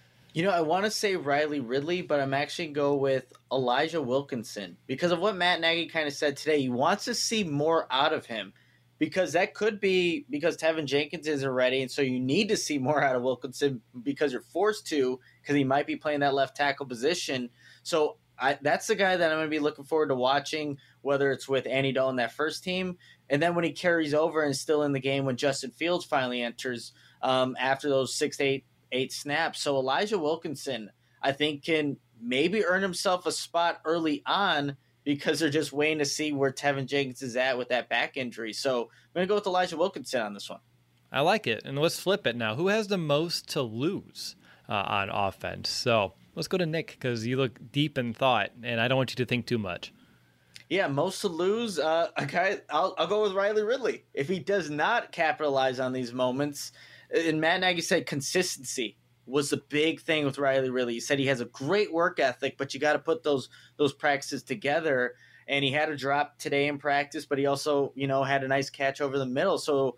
I want to say Riley Ridley, but I'm actually go with Elijah Wilkinson because of what Matt Nagy kind of said today. He wants to see more out of him because that could be because Tevin Jenkins isn't ready, and so you need to see more out of Wilkinson because you're forced to because he might be playing that left tackle position. So that's the guy that I'm going to be looking forward to watching, whether it's with Andy Dalton, that first team, and then when he carries over and still in the game when Justin Fields finally enters after those 6 to 8 snaps. So Elijah Wilkinson, I think, can maybe earn himself a spot early on because they're just waiting to see where Tevin Jenkins is at with that back injury. So I'm going to go with Elijah Wilkinson on this one. I like it. And let's flip it now. Who has the most to lose on offense? So let's go to Nick because you look deep in thought, and I don't want you to think too much. Yeah, most to lose. A guy, I'll go with Riley Ridley. If he does not capitalize on these moments, and Matt Nagy said consistency was the big thing with Riley Ridley. He said he has a great work ethic, but you got to put those practices together. And he had a drop today in practice, but he also, had a nice catch over the middle. So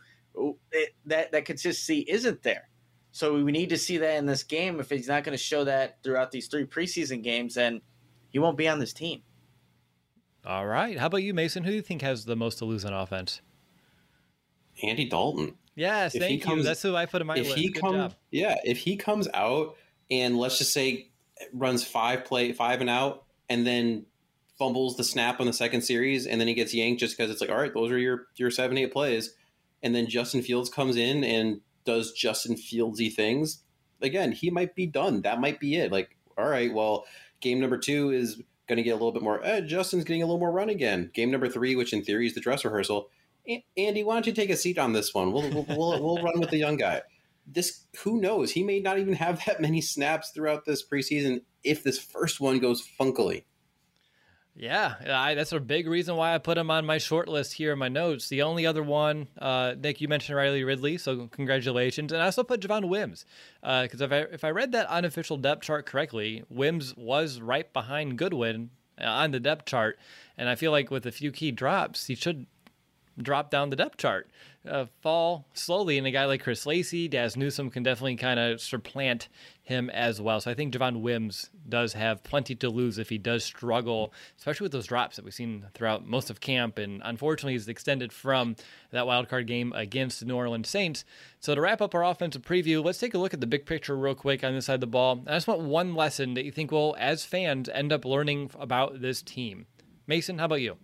that consistency isn't there. So we need to see that in this game. If he's not going to show that throughout these 3 preseason games, then he won't be on this team. All right. How about you, Mason? Who do you think has the most to lose on offense? Andy Dalton. Yes, thank you. That's who I put in my list. Good job. Yeah, if he comes out and let's just say runs 5 and out and then fumbles the snap on the second series and then he gets yanked just because it's like, all right, those are your 7-8 plays. And then Justin Fields comes in and does Justin Fieldsy things. Again, he might be done. That might be it. Like, all right, well, game number 2 is going to get a little bit more. Justin's getting a little more run again. Game number 3, which in theory is the dress rehearsal. Andy, why don't you take a seat on this one? We'll run with the young guy. Who knows? He may not even have that many snaps throughout this preseason if this first one goes funkily. Yeah, that's a big reason why I put him on my short list here in my notes. The only other one, Nick, you mentioned Riley Ridley, so congratulations. And I also put Javon Wims, because if I read that unofficial depth chart correctly, Wims was right behind Goodwin on the depth chart. And I feel like with a few key drops, he should drop down the depth chart, fall slowly. And a guy like Chris Lacey, Daz Newsome can definitely kind of supplant him as well. So I think Javon Wims does have plenty to lose if he does struggle, especially with those drops that we've seen throughout most of camp. And unfortunately, he's extended from that wild card game against the New Orleans Saints. So to wrap up our offensive preview, let's take a look at the big picture real quick on this side of the ball. I just want one lesson that you think we'll, as fans, end up learning about this team. Mason, how about you?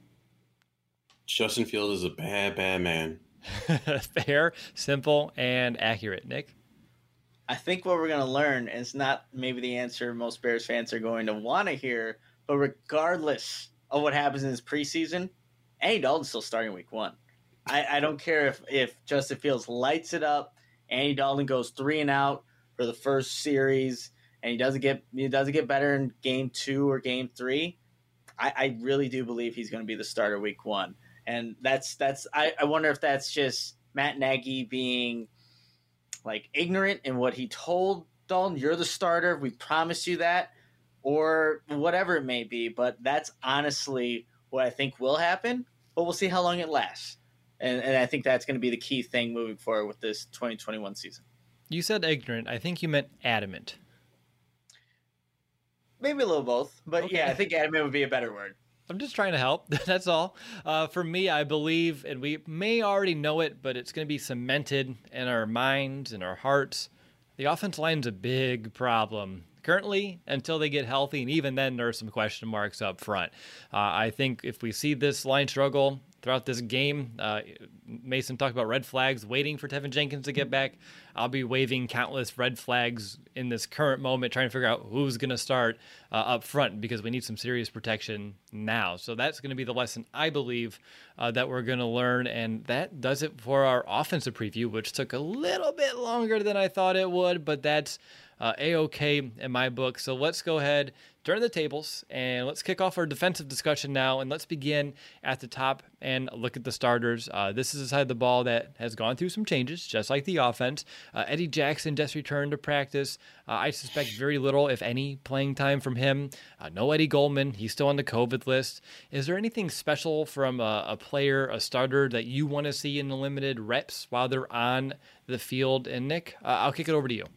Justin Fields is a bad, bad man. Fair, simple, and accurate. Nick? I think what we're going to learn is not maybe the answer most Bears fans are going to want to hear, but regardless of what happens in this preseason, Andy Dalton's still starting week 1. I don't care if Justin Fields lights it up, Andy Dalton goes 3 and out for the first series, and he doesn't get better in game 2 or game 3. I really do believe he's going to be the starter week 1. And I wonder if that's just Matt Nagy being like ignorant in what he told Dalton, you're the starter, we promise you that, or whatever it may be. But that's honestly what I think will happen, but we'll see how long it lasts. And I think that's going to be the key thing moving forward with this 2021 season. You said ignorant. I think you meant adamant. Maybe a little both, but okay. Yeah, I think adamant would be a better word. I'm just trying to help. That's all. For me, I believe, and we may already know it, but it's going to be cemented in our minds and our hearts. The offensive line's a big problem currently until they get healthy, and even then there are some question marks up front. I think if we see this line struggle throughout this game, Mason talked about red flags, waiting for Tevin Jenkins to get back. I'll be waving countless red flags in this current moment, trying to figure out who's going to start up front, because we need some serious protection now. So that's going to be the lesson, I believe, that we're going to learn. And that does it for our offensive preview, which took a little bit longer than I thought it would, but that's A-OK in my book. So let's go ahead, turn the tables, and let's kick off our defensive discussion now. And let's begin at the top and look at the starters. This is a side of the ball that has gone through some changes, just like the offense. Eddie Jackson just returned to practice. I suspect very little, if any, playing time from him. No Eddie Goldman. He's still on the COVID list. Is there anything special from a player, a starter, that you want to see in the limited reps while they're on the field? And Nick, I'll kick it over to you.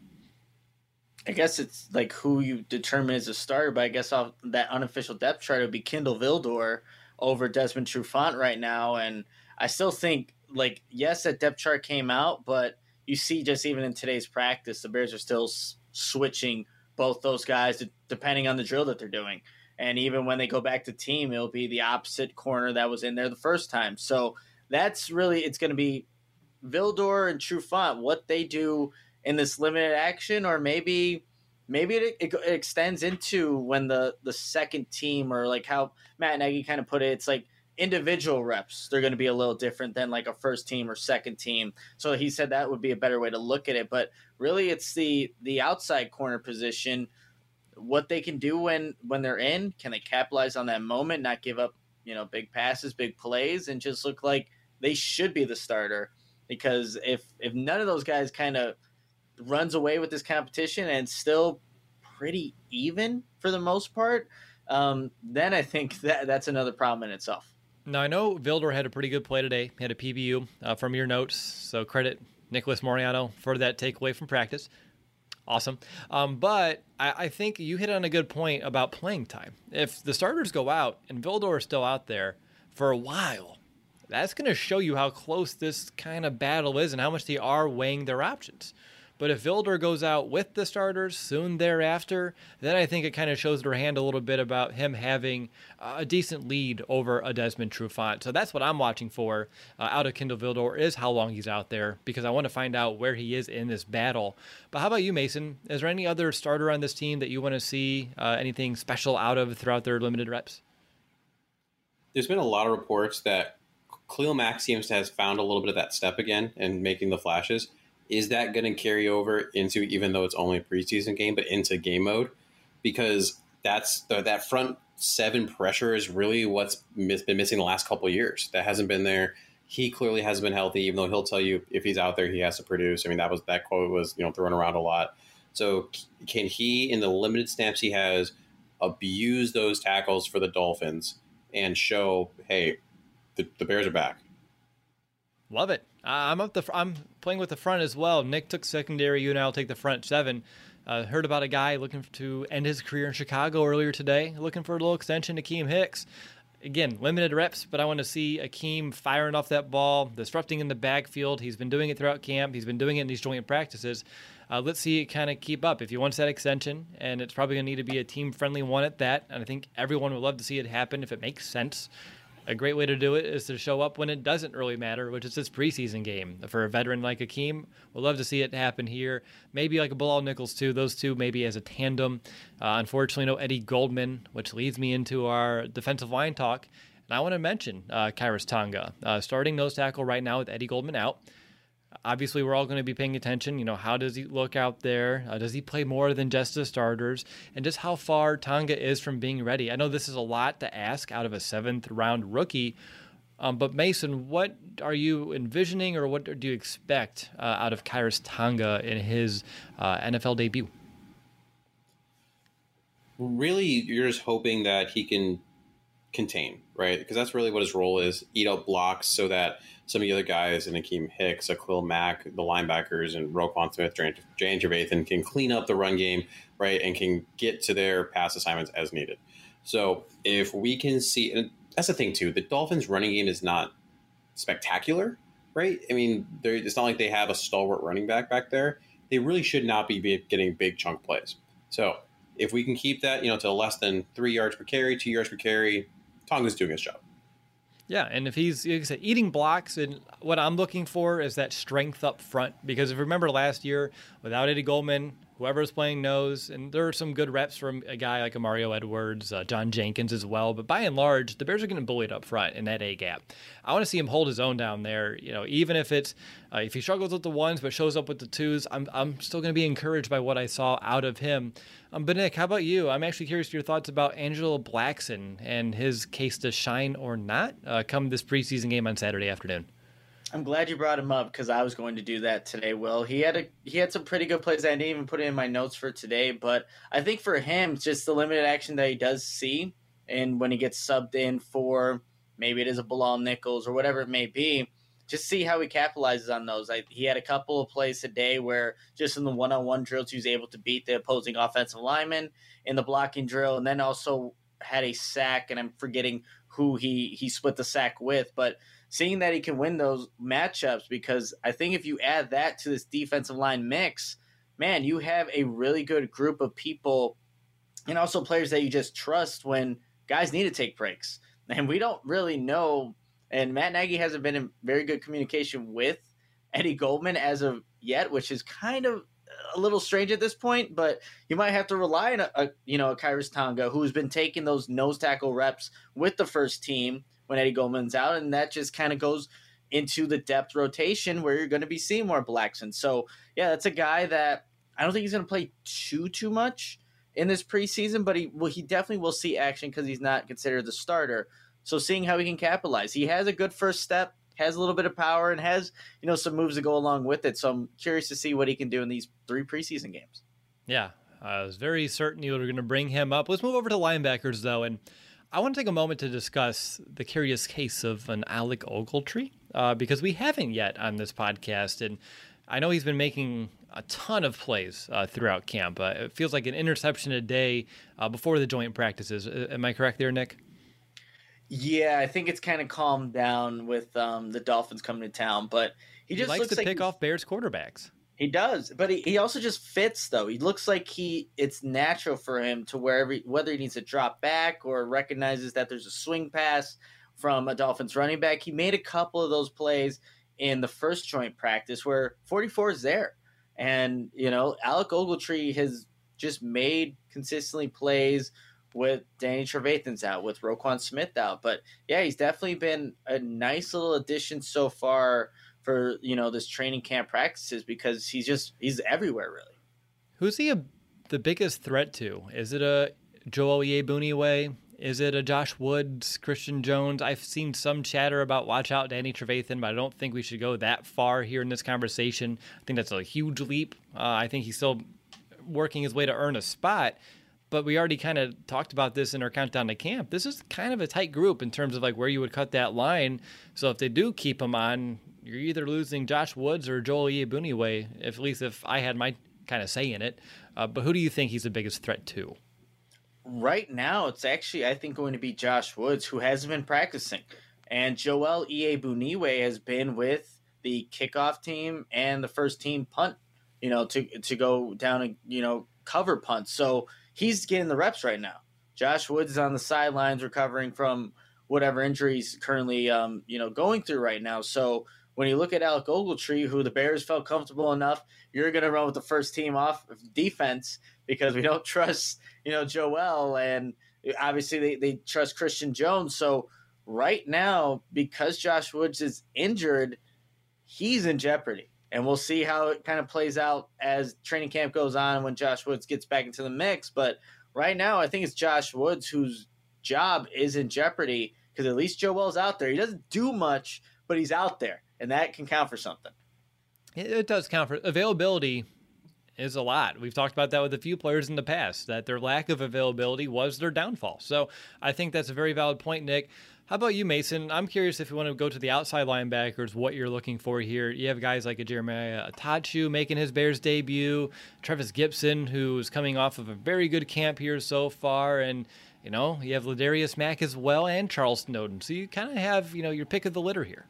I guess it's like who you determine as a starter, but I guess off that unofficial depth chart would be Kindle Vildor over Desmond Trufant right now. And I still think, like, yes, that depth chart came out, but you see just even in today's practice, the Bears are still switching both those guys depending on the drill that they're doing. And even when they go back to team, it'll be the opposite corner that was in there the first time. So that's really, it's going to be Vildor and Trufant, what they do in this limited action, or maybe it extends into when the second team, or like how Matt Nagy kind of put it, it's like individual reps. They're going to be a little different than like a first team or second team. So he said that would be a better way to look at it. But really, it's the outside corner position, what they can do when they're in. Can they capitalize on that moment, not give up, big passes, big plays, and just look like they should be the starter? Because if none of those guys kind of runs away with this competition and still pretty even for the most part, then I think that's another problem in itself. Now, I know Vildor had a pretty good play today. He had a PBU from your notes, so credit Nicholas Moriano for that takeaway from practice. Awesome. But I think you hit on a good point about playing time. If the starters go out and Vildor is still out there for a while, that's going to show you how close this kind of battle is and how much they are weighing their options. But if Vildor goes out with the starters soon thereafter, then I think it kind of shows their hand a little bit about him having a decent lead over a Desmond Trufant. So that's what I'm watching for out of Kindle Vildor, is how long he's out there, because I want to find out where he is in this battle. But how about you, Mason? Is there any other starter on this team that you want to see anything special out of throughout their limited reps? There's been a lot of reports that Khalil Mack seems to have found a little bit of that step again and making the flashes. Is that going to carry over into, even though it's only a preseason game, but into game mode? Because that front 7 pressure is really what's been missing the last couple of years. That hasn't been there. He clearly hasn't been healthy, even though he'll tell you if he's out there, he has to produce. I mean, that quote was, thrown around a lot. So can he, in the limited snaps he has, abuse those tackles for the Dolphins and show, hey, the Bears are back? Love it. I'm playing with the front as well. Nick took secondary. You and I'll take the front 7. Heard about a guy looking to end his career in Chicago earlier today, looking for a little extension to Akeem Hicks. Again, limited reps, but I want to see Akeem firing off that ball, disrupting in the backfield. He's been doing it throughout camp. He's been doing it in these joint practices. Let's see it kind of keep up. If he wants that extension, and it's probably going to need to be a team-friendly one at that, and I think everyone would love to see it happen if it makes sense. A great way to do it is to show up when it doesn't really matter, which is this preseason game. For a veteran like Akeem, we'd love to see it happen here. Maybe like a Bilal Nichols, too. Those two maybe as a tandem. Unfortunately, no Eddie Goldman, which leads me into our defensive line talk. And I want to mention Khyiris Tonga, starting nose tackle right now with Eddie Goldman out. Obviously, we're all going to be paying attention. How does he look out there? Does he play more than just the starters? And just how far Tonga is from being ready. I know this is a lot to ask out of a 7th-round rookie. But Mason, what are you envisioning or what do you expect out of Khyiris Tonga in his NFL debut? Really, you're just hoping that he can contain, right? Because that's really what his role is, eat out blocks so that some of the other guys, and Akeem Hicks, Khalil Mack, the linebackers, and Roquan Smith, Jane Trevathan can clean up the run game, right, and can get to their pass assignments as needed. So if we can see, and that's the thing too, the Dolphins' running game is not spectacular, right? I mean, it's not like they have a stalwart running back there. They really should not be getting big chunk plays. So if we can keep that, to less than 3 yards per carry, 2 yards per carry, Tonga's doing his job. Yeah, and if he's, like I said, eating blocks, and what I'm looking for is that strength up front. Because if you remember last year, without Eddie Goldman, whoever's playing knows, and there are some good reps from a guy like Mario Edwards, John Jenkins as well. But by and large, the Bears are getting bullied up front in that A gap. I want to see him hold his own down there. Even if it's if he struggles with the ones but shows up with the twos, I'm still going to be encouraged by what I saw out of him. But Nick, how about you? I'm actually curious to your thoughts about Angelo Blackson and his case to shine or not come this preseason game on Saturday afternoon. I'm glad you brought him up because I was going to do that today, Will. He had some pretty good plays. I didn't even put it in my notes for today, but I think for him, just the limited action that he does see, and when he gets subbed in for maybe it is a Bilal Nichols or whatever it may be, just see how he capitalizes on those. He had a couple of plays today where just in the one-on-one drills, he was able to beat the opposing offensive lineman in the blocking drill, and then also had a sack, and I'm forgetting who he split the sack with, but seeing that he can win those matchups, because I think if you add that to this defensive line mix, man, you have a really good group of people and also players that you just trust when guys need to take breaks. And we don't really know, and Matt Nagy hasn't been in very good communication with Eddie Goldman as of yet, which is kind of a little strange at this point, but you might have to rely on a Khyiris Tonga who's been taking those nose tackle reps with the first team when Eddie Goldman's out, and that just kind of goes into the depth rotation where you're going to be seeing more Blackson. So, yeah, that's a guy that I don't think he's going to play too much in this preseason, but he definitely will see action because he's not considered the starter. So seeing how he can capitalize. He has a good first step, has a little bit of power, and has some moves to go along with it. So I'm curious to see what he can do in these 3 preseason games. Yeah, I was very certain you were going to bring him up. Let's move over to linebackers, though, and I want to take a moment to discuss the curious case of an Alec Ogletree, because we haven't yet on this podcast, and I know he's been making a ton of plays throughout camp. It feels like an interception a day before the joint practices. Am I correct there, Nick? Yeah, I think it's kind of calmed down with the Dolphins coming to town, but he just likes to pick off Bears quarterbacks. He does, but he also just fits, though. He looks like it's natural for him to whether he needs to drop back or recognizes that there's a swing pass from a Dolphins running back. He made a couple of those plays in the first joint practice where 44 is there. And, Alec Ogletree has just made consistently plays with Danny Trevathan's out, with Roquan Smith out. But, yeah, he's definitely been a nice little addition so far for, this training camp practices, because he's everywhere, really. Who's he the biggest threat to? Is it a Joel Iyiegbuniwe? Is it a Josh Woods, Christian Jones? I've seen some chatter about watch out Danny Trevathan, but I don't think we should go that far here in this conversation. I think that's a huge leap. I think he's still working his way to earn a spot, but we already kind of talked about this in our countdown to camp. This is kind of a tight group in terms of like where you would cut that line. So if they do keep him on, you're either losing Josh Woods or Joel Iyiegbuniwe, at least if I had my kind of say in it. But who do you think he's the biggest threat to? Right now, it's actually, I think, going to be Josh Woods, who hasn't been practicing. And Joel Iyiegbuniwe has been with the kickoff team and the first team punt, to go down and, cover punts. So he's getting the reps right now. Josh Woods is on the sidelines recovering from whatever injury he's currently, going through right now. So when you look at Alec Ogletree, who the Bears felt comfortable enough, you're going to run with the first team off defense because we don't trust, Joel, and obviously they trust Christian Jones. So right now, because Josh Woods is injured, he's in jeopardy. And we'll see how it kind of plays out as training camp goes on when Josh Woods gets back into the mix. But right now, I think it's Josh Woods whose job is in jeopardy because at least Joel's out there. He doesn't do much, but he's out there, and that can count for something. It does count for availability. Is a lot. We've talked about that with a few players in the past, that their lack of availability was their downfall. So I think that's a very valid point, Nick. How about you, Mason? I'm curious if you want to go to the outside linebackers, what you're looking for here. You have guys like a Jeremiah Atachu making his Bears debut, Travis Gibson, who's coming off of a very good camp here so far, and you have Ladarius Mack as well and Charles Snowden. So you kind of have, your pick of the litter here.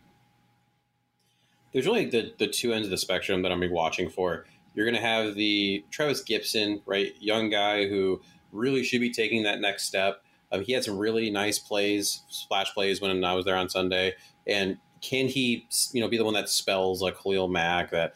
There's really the two ends of the spectrum that I'm going to be watching for. You're going to have the Travis Gibson, right, young guy who really should be taking that next step. He had some really nice plays, splash plays when I was there on Sunday. And can he, be the one that spells like Khalil Mack, that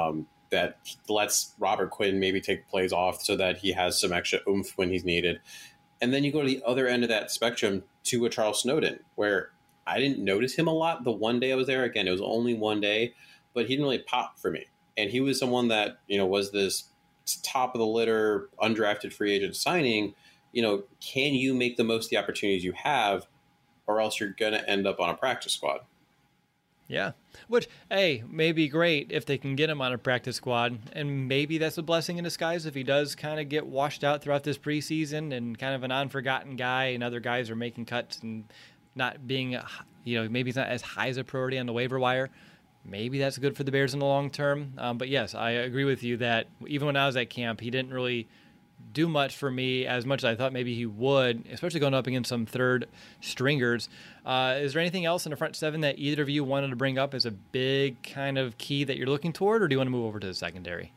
lets Robert Quinn maybe take plays off so that he has some extra oomph when he's needed. And then you go to the other end of that spectrum to a Charles Snowden, where I didn't notice him a lot the one day I was there. Again, it was only one day, but he didn't really pop for me. And he was someone that, was this top of the litter, undrafted free agent signing. Can you make the most of the opportunities you have, or else you're going to end up on a practice squad? Yeah, which, hey, may be great if they can get him on a practice squad. And maybe that's a blessing in disguise if he does kind of get washed out throughout this preseason and kind of an unforgotten guy and other guys are making cuts and not being, maybe he's not as high as a priority on the waiver wire. Maybe that's good for the Bears in the long term. But yes, I agree with you that even when I was at camp, he didn't really do much for me as much as I thought maybe he would, especially going up against some third stringers. Is there anything else in the front seven that either of you wanted to bring up as a big kind of key that you're looking toward, or do you want to move over to the secondary?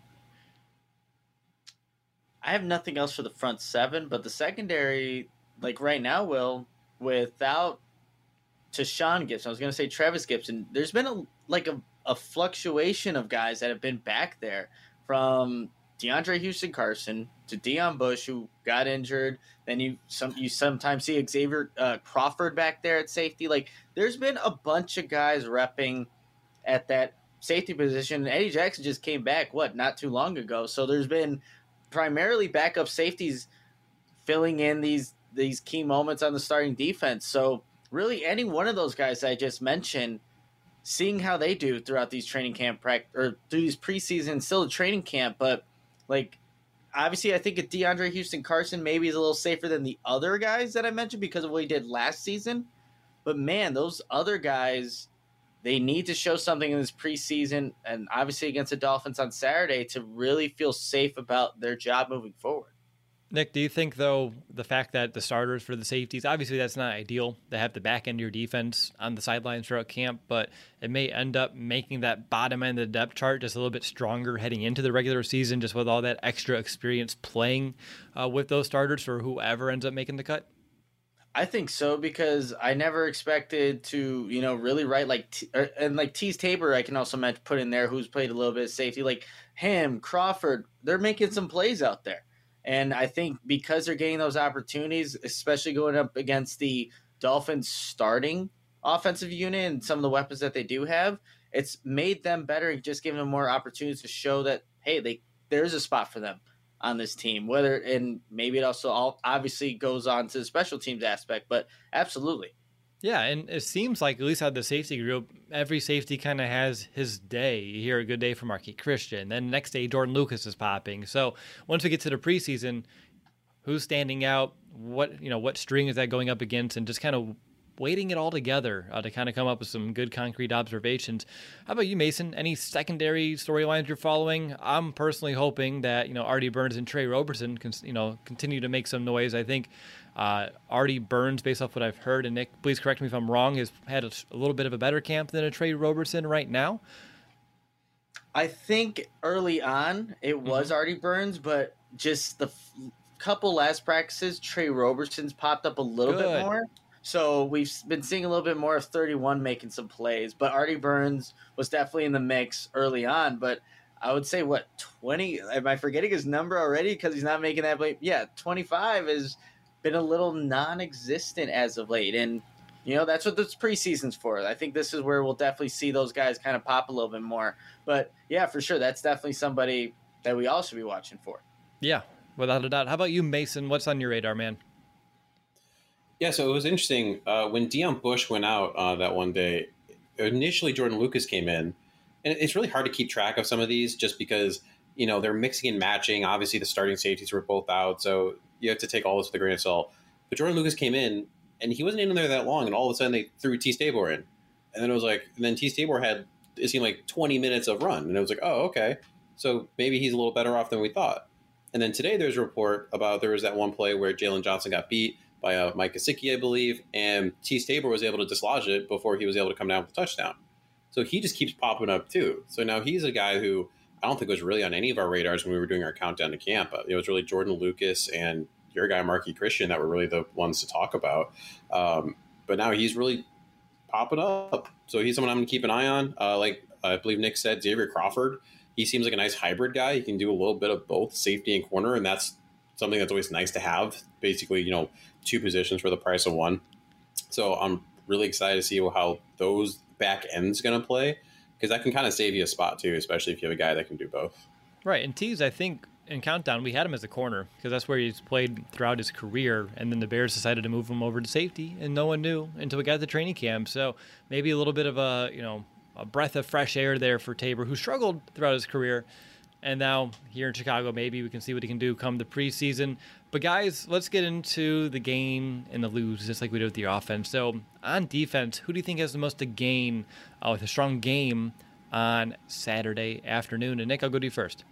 I have nothing else for the front seven, but the secondary, like right now, without Tashaun Gibson, I was going to say Travis Gibson, there's been a fluctuation of guys that have been back there, from DeAndre Houston Carson to Deion Bush, who got injured. Then you sometimes see Xavier Crawford back there at safety. Like, there's been a bunch of guys repping at that safety position. Eddie Jackson just came back, not too long ago. So there's been primarily backup safeties filling in these key moments on the starting defense. So really, any one of those guys I just mentioned, seeing how they do throughout these training camp or through these preseason, still a training camp, but obviously I think a DeAndre Houston Carson maybe is a little safer than the other guys that I mentioned because of what he did last season. But man, those other guys, they need to show something in this preseason and obviously against the Dolphins on Saturday to really feel safe about their job moving forward. Nick, do you think, though, the fact that the starters for the safeties, obviously that's not ideal to have the back end of your defense on the sidelines throughout camp, but it may end up making that bottom end of the depth chart just a little bit stronger heading into the regular season, just with all that extra experience playing with those starters for whoever ends up making the cut? I think so, because I never expected to, really write like Tease Tabor. I can also put in there, who's played a little bit of safety, like him, Crawford. They're making some plays out there. And I think because they're getting those opportunities, especially going up against the Dolphins starting offensive unit and some of the weapons that they do have, it's made them better and just given them more opportunities to show that, hey, there's a spot for them on this team. Whether, and maybe it also all obviously goes on to the special teams aspect, but absolutely. Yeah, and it seems like, at least out of the safety group, every safety kind of has his day. You hear a good day from Marquis Christian. Then the next day, Jordan Lucas is popping. So once we get to the preseason, who's standing out? What string is that going up against? And just kind of weighting it all together to kind of come up with some good concrete observations. How about you, Mason? Any secondary storylines you're following? I'm personally hoping that Artie Burns and Trey Roberson can continue to make some noise. I think Artie Burns, based off what I've heard, and Nick, please correct me if I'm wrong, has had a little bit of a better camp than a Trey Roberson right now. I think early on it was Artie Burns, but just the couple last practices, Trey Roberson's popped up a little bit more. So we've been seeing a little bit more of 31 making some plays, but Artie Burns was definitely in the mix early on. But I would say, 20? Am I forgetting his number already because he's not making that play? Yeah, 25 has been a little non-existent as of late. And, that's what this preseason's for. I think this is where we'll definitely see those guys kind of pop a little bit more. But, yeah, for sure, that's definitely somebody that we all should be watching for. Yeah, without a doubt. How about you, Mason? What's on your radar, man? Yeah, so it was interesting. When Deion Bush went out that one day, initially Jordan Lucas came in. And it's really hard to keep track of some of these just because, they're mixing and matching. Obviously, the starting safeties were both out, so you have to take all this with a grain of salt. But Jordan Lucas came in, and he wasn't in there that long, and all of a sudden they threw T. Stabor in. And then it was like, and then T. Stabor had, it seemed like 20 minutes of run. And it was like, oh, okay. So maybe he's a little better off than we thought. And then today there's a report about there was that one play where Jalen Johnson got beat by Mike Gesicki, I believe, and T. Stabor was able to dislodge it before he was able to come down with a touchdown. So he just keeps popping up too. So now he's a guy who I don't think was really on any of our radars when we were doing our countdown to camp. It was really Jordan Lucas and your guy Marquis Christian that were really the ones to talk about. But now he's really popping up. So he's someone I'm going to keep an eye on. Like I believe Nick said, Xavier Crawford. He seems like a nice hybrid guy. He can do a little bit of both safety and corner, and that's something that's always nice to have. Basically, two positions for the price of one. So I'm really excited to see how those back ends going to play, because that can kind of save you a spot too, especially if you have a guy that can do both. Right, and Tease, I think in Countdown we had him as a corner because that's where he's played throughout his career, and then the Bears decided to move him over to safety, and no one knew until we got the training camp. So maybe a little bit of a breath of fresh air there for Tabor, who struggled throughout his career. And now here in Chicago, maybe we can see what he can do come the preseason. But guys, let's get into the gain and the lose, just like we did with the offense. So on defense, who do you think has the most to gain with a strong game on Saturday afternoon? And Nick, I'll go to you first.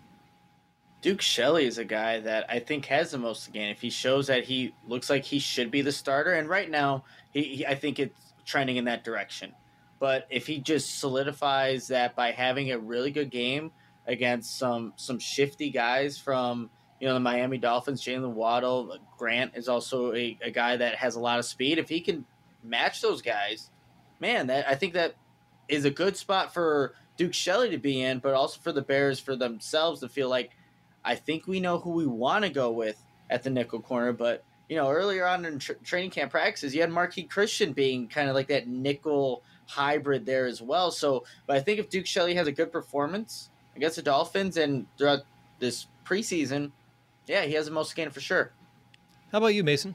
Duke Shelley is a guy that I think has the most to gain. If he shows that he looks like he should be the starter, and right now I think it's trending in that direction. But if he just solidifies that by having a really good game against some shifty guys from the Miami Dolphins, Jalen Waddle, Grant is also a guy that has a lot of speed. If he can match those guys, man, I think that is a good spot for Duke Shelley to be in, but also for the Bears for themselves to feel like, I think we know who we want to go with at the nickel corner. But earlier on in training camp practices, you had Marquis Christian being kind of like that nickel hybrid there as well. So, but I think if Duke Shelley has a good performance against the Dolphins and throughout this preseason, yeah, he has the most to gain for sure. How about you, Mason?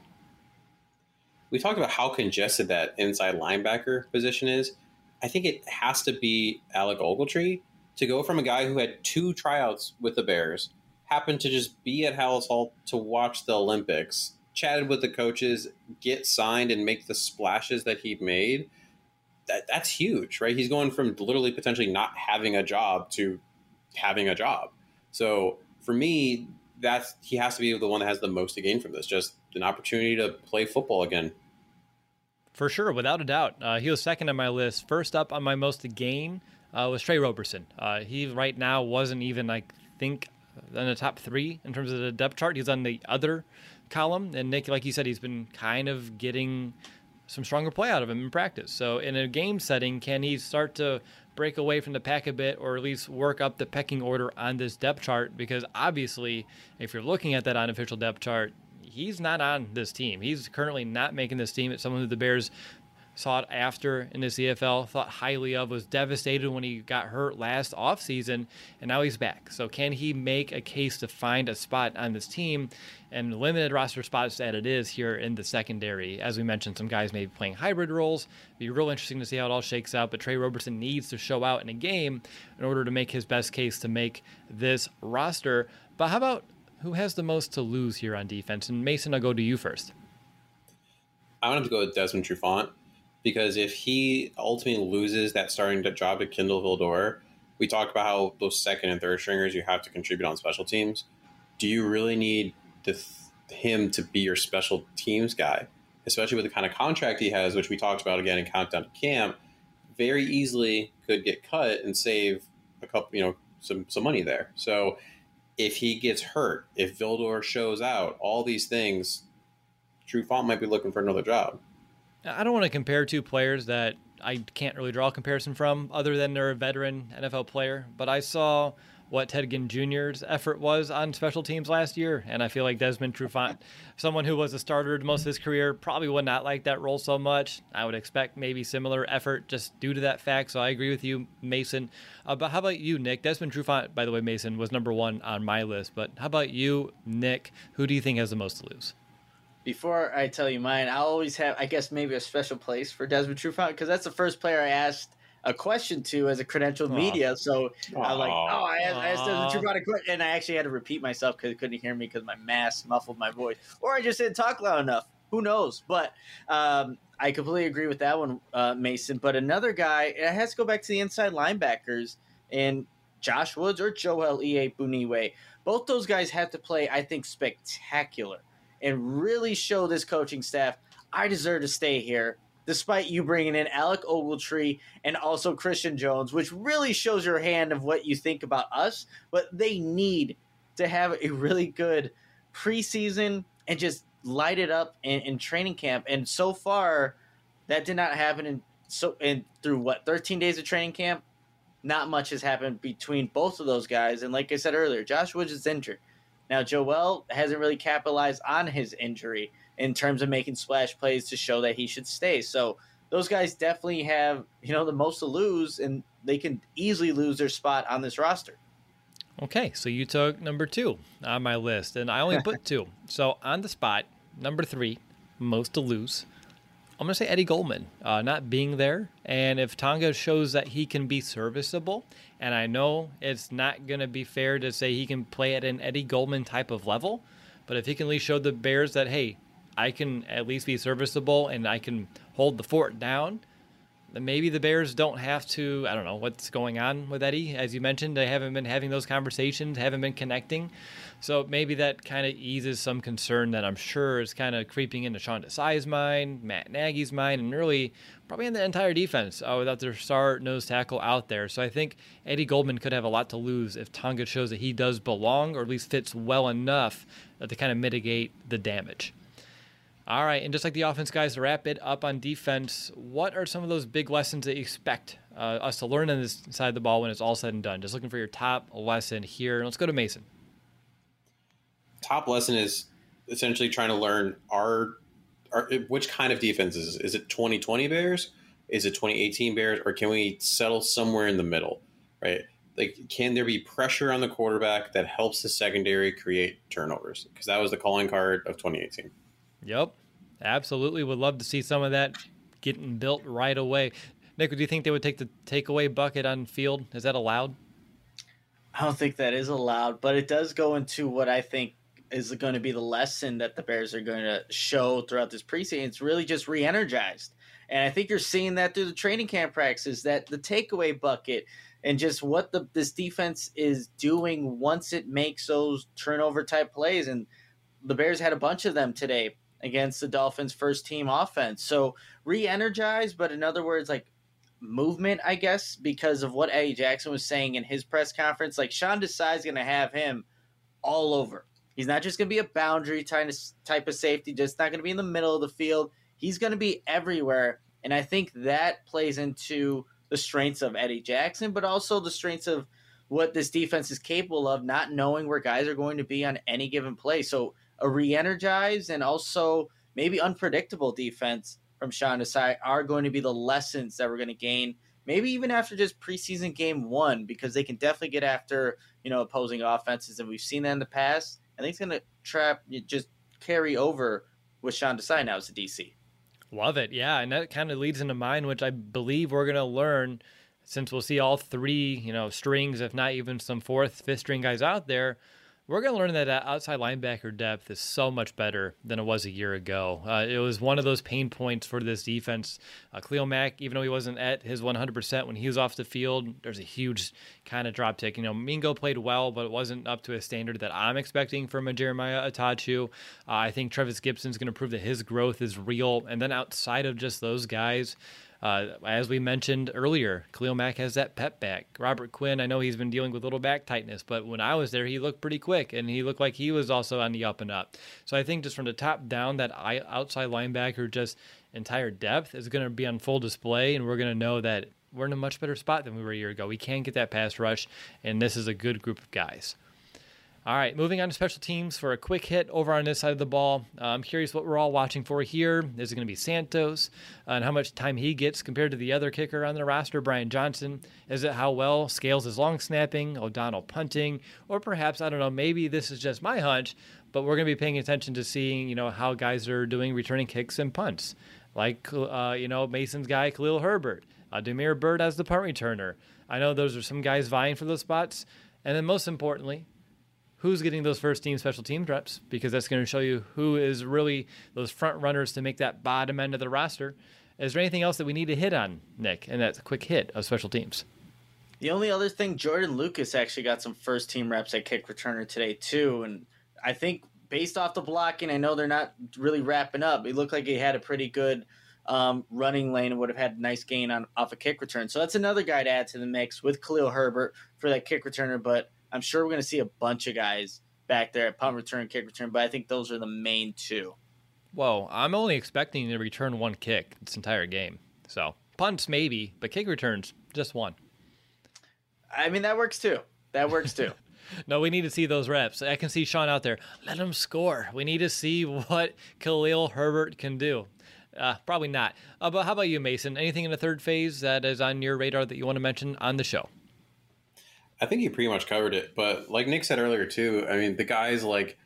We talked about how congested that inside linebacker position is. I think it has to be Alec Ogletree to go from a guy who had 2 tryouts with the Bears, happened to just be at Halas Hall to watch the Olympics, chatted with the coaches, get signed, and make the splashes that he made. That's huge, right? He's going from literally potentially not having a job to having a job. So for me, he has to be the one that has the most to gain from this. Just an opportunity to play football again. For sure, without a doubt. He was second on my list. First up on my most to gain was Trey Roberson. He right now wasn't even, I think, in the top 3 in terms of the depth chart. He's on the other column. And Nick, like you said, he's been kind of getting some stronger play out of him in practice. So in a game setting, can he start to break away from the pack a bit, or at least work up the pecking order on this depth chart? Because obviously, if you're looking at that unofficial depth chart, he's not on this team. He's currently not making this team. It's someone who the Bears sought after in the CFL, thought highly of, was devastated when he got hurt last offseason, and now he's back. So can he make a case to find a spot on this team? And limited roster spots that it is here in the secondary. As we mentioned, some guys may be playing hybrid roles. It'd be real interesting to see how it all shakes out, but Trey Roberson needs to show out in a game in order to make his best case to make this roster. But how about who has the most to lose here on defense? And Mason, I'll go to you first. I want to go with Desmond Trufant, because if he ultimately loses that starting job to Kindle Vildor, we talked about how those second and third stringers you have to contribute on special teams. Do you really need him to be your special teams guy, especially with the kind of contract he has, which we talked about again in Countdown to Camp? Very easily could get cut and save a couple, some money there. So if he gets hurt, if Vildor shows out, all these things, Trufant might be looking for another job. I don't want to compare two players that I can't really draw a comparison from other than they're a veteran NFL player, but I saw what Ted Ginn Jr.'s effort was on special teams last year, and I feel like Desmond Trufant, someone who was a starter most of his career, probably would not like that role so much. I would expect maybe similar effort just due to that fact, so I agree with you, Mason. But how about you, Nick? Desmond Trufant, by the way, Mason, was number one on my list, but how about you, Nick? Who do you think has the most to lose? Before I tell you mine, I always have, I guess, maybe a special place for Desmond Trufant, because that's the first player I asked a question to as a credentialed media. So I'm like, I asked Desmond Trufant a question, and I actually had to repeat myself because he couldn't hear me because my mask muffled my voice, or I just didn't talk loud enough. Who knows? But I completely agree with that one, Mason. But another guy, it has to go back to the inside linebackers, and Josh Woods or Joel Iyiegbuniwe. Both those guys have to play, I think, spectacular and really show this coaching staff, I deserve to stay here, despite you bringing in Alec Ogletree and also Christian Jones, which really shows your hand of what you think about us. But they need to have a really good preseason and just light it up in training camp. And so far, that did not happen. Through 13 days of training camp, not much has happened between both of those guys. And like I said earlier, Josh Woods is injured. Now, Joel hasn't really capitalized on his injury in terms of making splash plays to show that he should stay. So those guys definitely have, the most to lose, and they can easily lose their spot on this roster. Okay, so you took number 2 on my list, and I only put 2. So on the spot, number 3, most to lose, I'm going to say Eddie Goldman, not being there. And if Tonga shows that he can be serviceable, and I know it's not going to be fair to say he can play at an Eddie Goldman type of level, but if he can at least show the Bears that, hey, I can at least be serviceable and I can hold the fort down, then maybe the Bears don't have to, I don't know what's going on with Eddie. As you mentioned, they haven't been having those conversations, haven't been connecting. So maybe that kind of eases some concern that I'm sure is kind of creeping into Sean Desai's mind, Matt Nagy's mind, and really probably in the entire defense without their star nose tackle out there. So I think Eddie Goldman could have a lot to lose if Tonga shows that he does belong, or at least fits well enough to kind of mitigate the damage. All right, and just like the offense, guys, to wrap it up on defense, what are some of those big lessons that you expect us to learn on this side of the ball when it's all said and done? Just looking for your top lesson here. Let's go to Mason. Top lesson is essentially trying to learn which kind of defense is it? Is it 2020 Bears? Is it 2018 Bears? Or can we settle somewhere in the middle, right? Like, can there be pressure on the quarterback that helps the secondary create turnovers? Because that was the calling card of 2018. Yep, absolutely. Would love to see some of that getting built right away. Nick, do you think they would take the takeaway bucket on field? Is that allowed? I don't think that is allowed, but it does go into what I think is going to be the lesson that the Bears are going to show throughout this preseason. It's really just re-energized. And I think you're seeing that through the training camp practices, that the takeaway bucket and just what this defense is doing once it makes those turnover-type plays. And the Bears had a bunch of them today against the Dolphins' first-team offense. So re-energized, but in other words, like movement, I guess, because of what Eddie Jackson was saying in his press conference. Like, Sean Desai is going to have him all over. He's not just going to be a boundary type of safety, just not going to be in the middle of the field. He's going to be everywhere, and I think that plays into the strengths of Eddie Jackson, but also the strengths of what this defense is capable of, not knowing where guys are going to be on any given play. So a re-energized and also maybe unpredictable defense from Sean Desai are going to be the lessons that we're going to gain, maybe even after just preseason game one, because they can definitely get after, opposing offenses. And we've seen that in the past. I think it's going to just carry over with Sean Desai now as a DC. Love it. Yeah. And that kind of leads into mine, which I believe we're going to learn since we'll see all three, strings, if not even some fourth, fifth string guys out there. We're going to learn that outside linebacker depth is so much better than it was a year ago. It was one of those pain points for this defense. Khalil Mack, even though he wasn't at his 100% when he was off the field, there's a huge kind of drop tick. Mingo played well, but it wasn't up to a standard that I'm expecting from a Jeremiah Atachu. I think Trevis Gibson's going to prove that his growth is real. And then outside of just those guys, as we mentioned earlier, Khalil Mack has that pep back. Robert Quinn, I know he's been dealing with a little back tightness, but when I was there, he looked pretty quick, and he looked like he was also on the up and up. So I think just from the top down, that outside linebacker, just entire depth is going to be on full display, and we're going to know that we're in a much better spot than we were a year ago. We can get that pass rush, and this is a good group of guys. All right, moving on to special teams for a quick hit over on this side of the ball. I'm curious what we're all watching for here. Is it going to be Santos and how much time he gets compared to the other kicker on the roster, Brian Johnson? Is it how well Scales is long snapping, O'Donnell punting, or perhaps, I don't know, maybe this is just my hunch, but we're going to be paying attention to seeing, how guys are doing returning kicks and punts. Like, Mason's guy, Khalil Herbert, Demir Bird as the punt returner. I know those are some guys vying for those spots. And then most importantly, who's getting those first team special team reps, because that's going to show you who is really those front runners to make that bottom end of the roster. Is there anything else that we need to hit on, Nick, and that's a quick hit of special teams? The only other thing, Jordan Lucas actually got some first team reps at kick returner today too, and I think based off the blocking, I know they're not really wrapping up. It looked like he had a pretty good running lane and would have had a nice gain off a kick return. So that's another guy to add to the mix with Khalil Herbert for that kick returner, but I'm sure we're going to see a bunch of guys back there at punt return, kick return, but I think those are the main two. Whoa, I'm only expecting to return one kick this entire game. So punts maybe, but kick returns, just one. I mean, that works too. No, we need to see those reps. I can see Sean out there. Let him score. We need to see what Khalil Herbert can do. Probably not. But how about you, Mason? Anything in the third phase that is on your radar that you want to mention on the show? I think you pretty much covered it, but like Nick said earlier too, I mean, the guys like,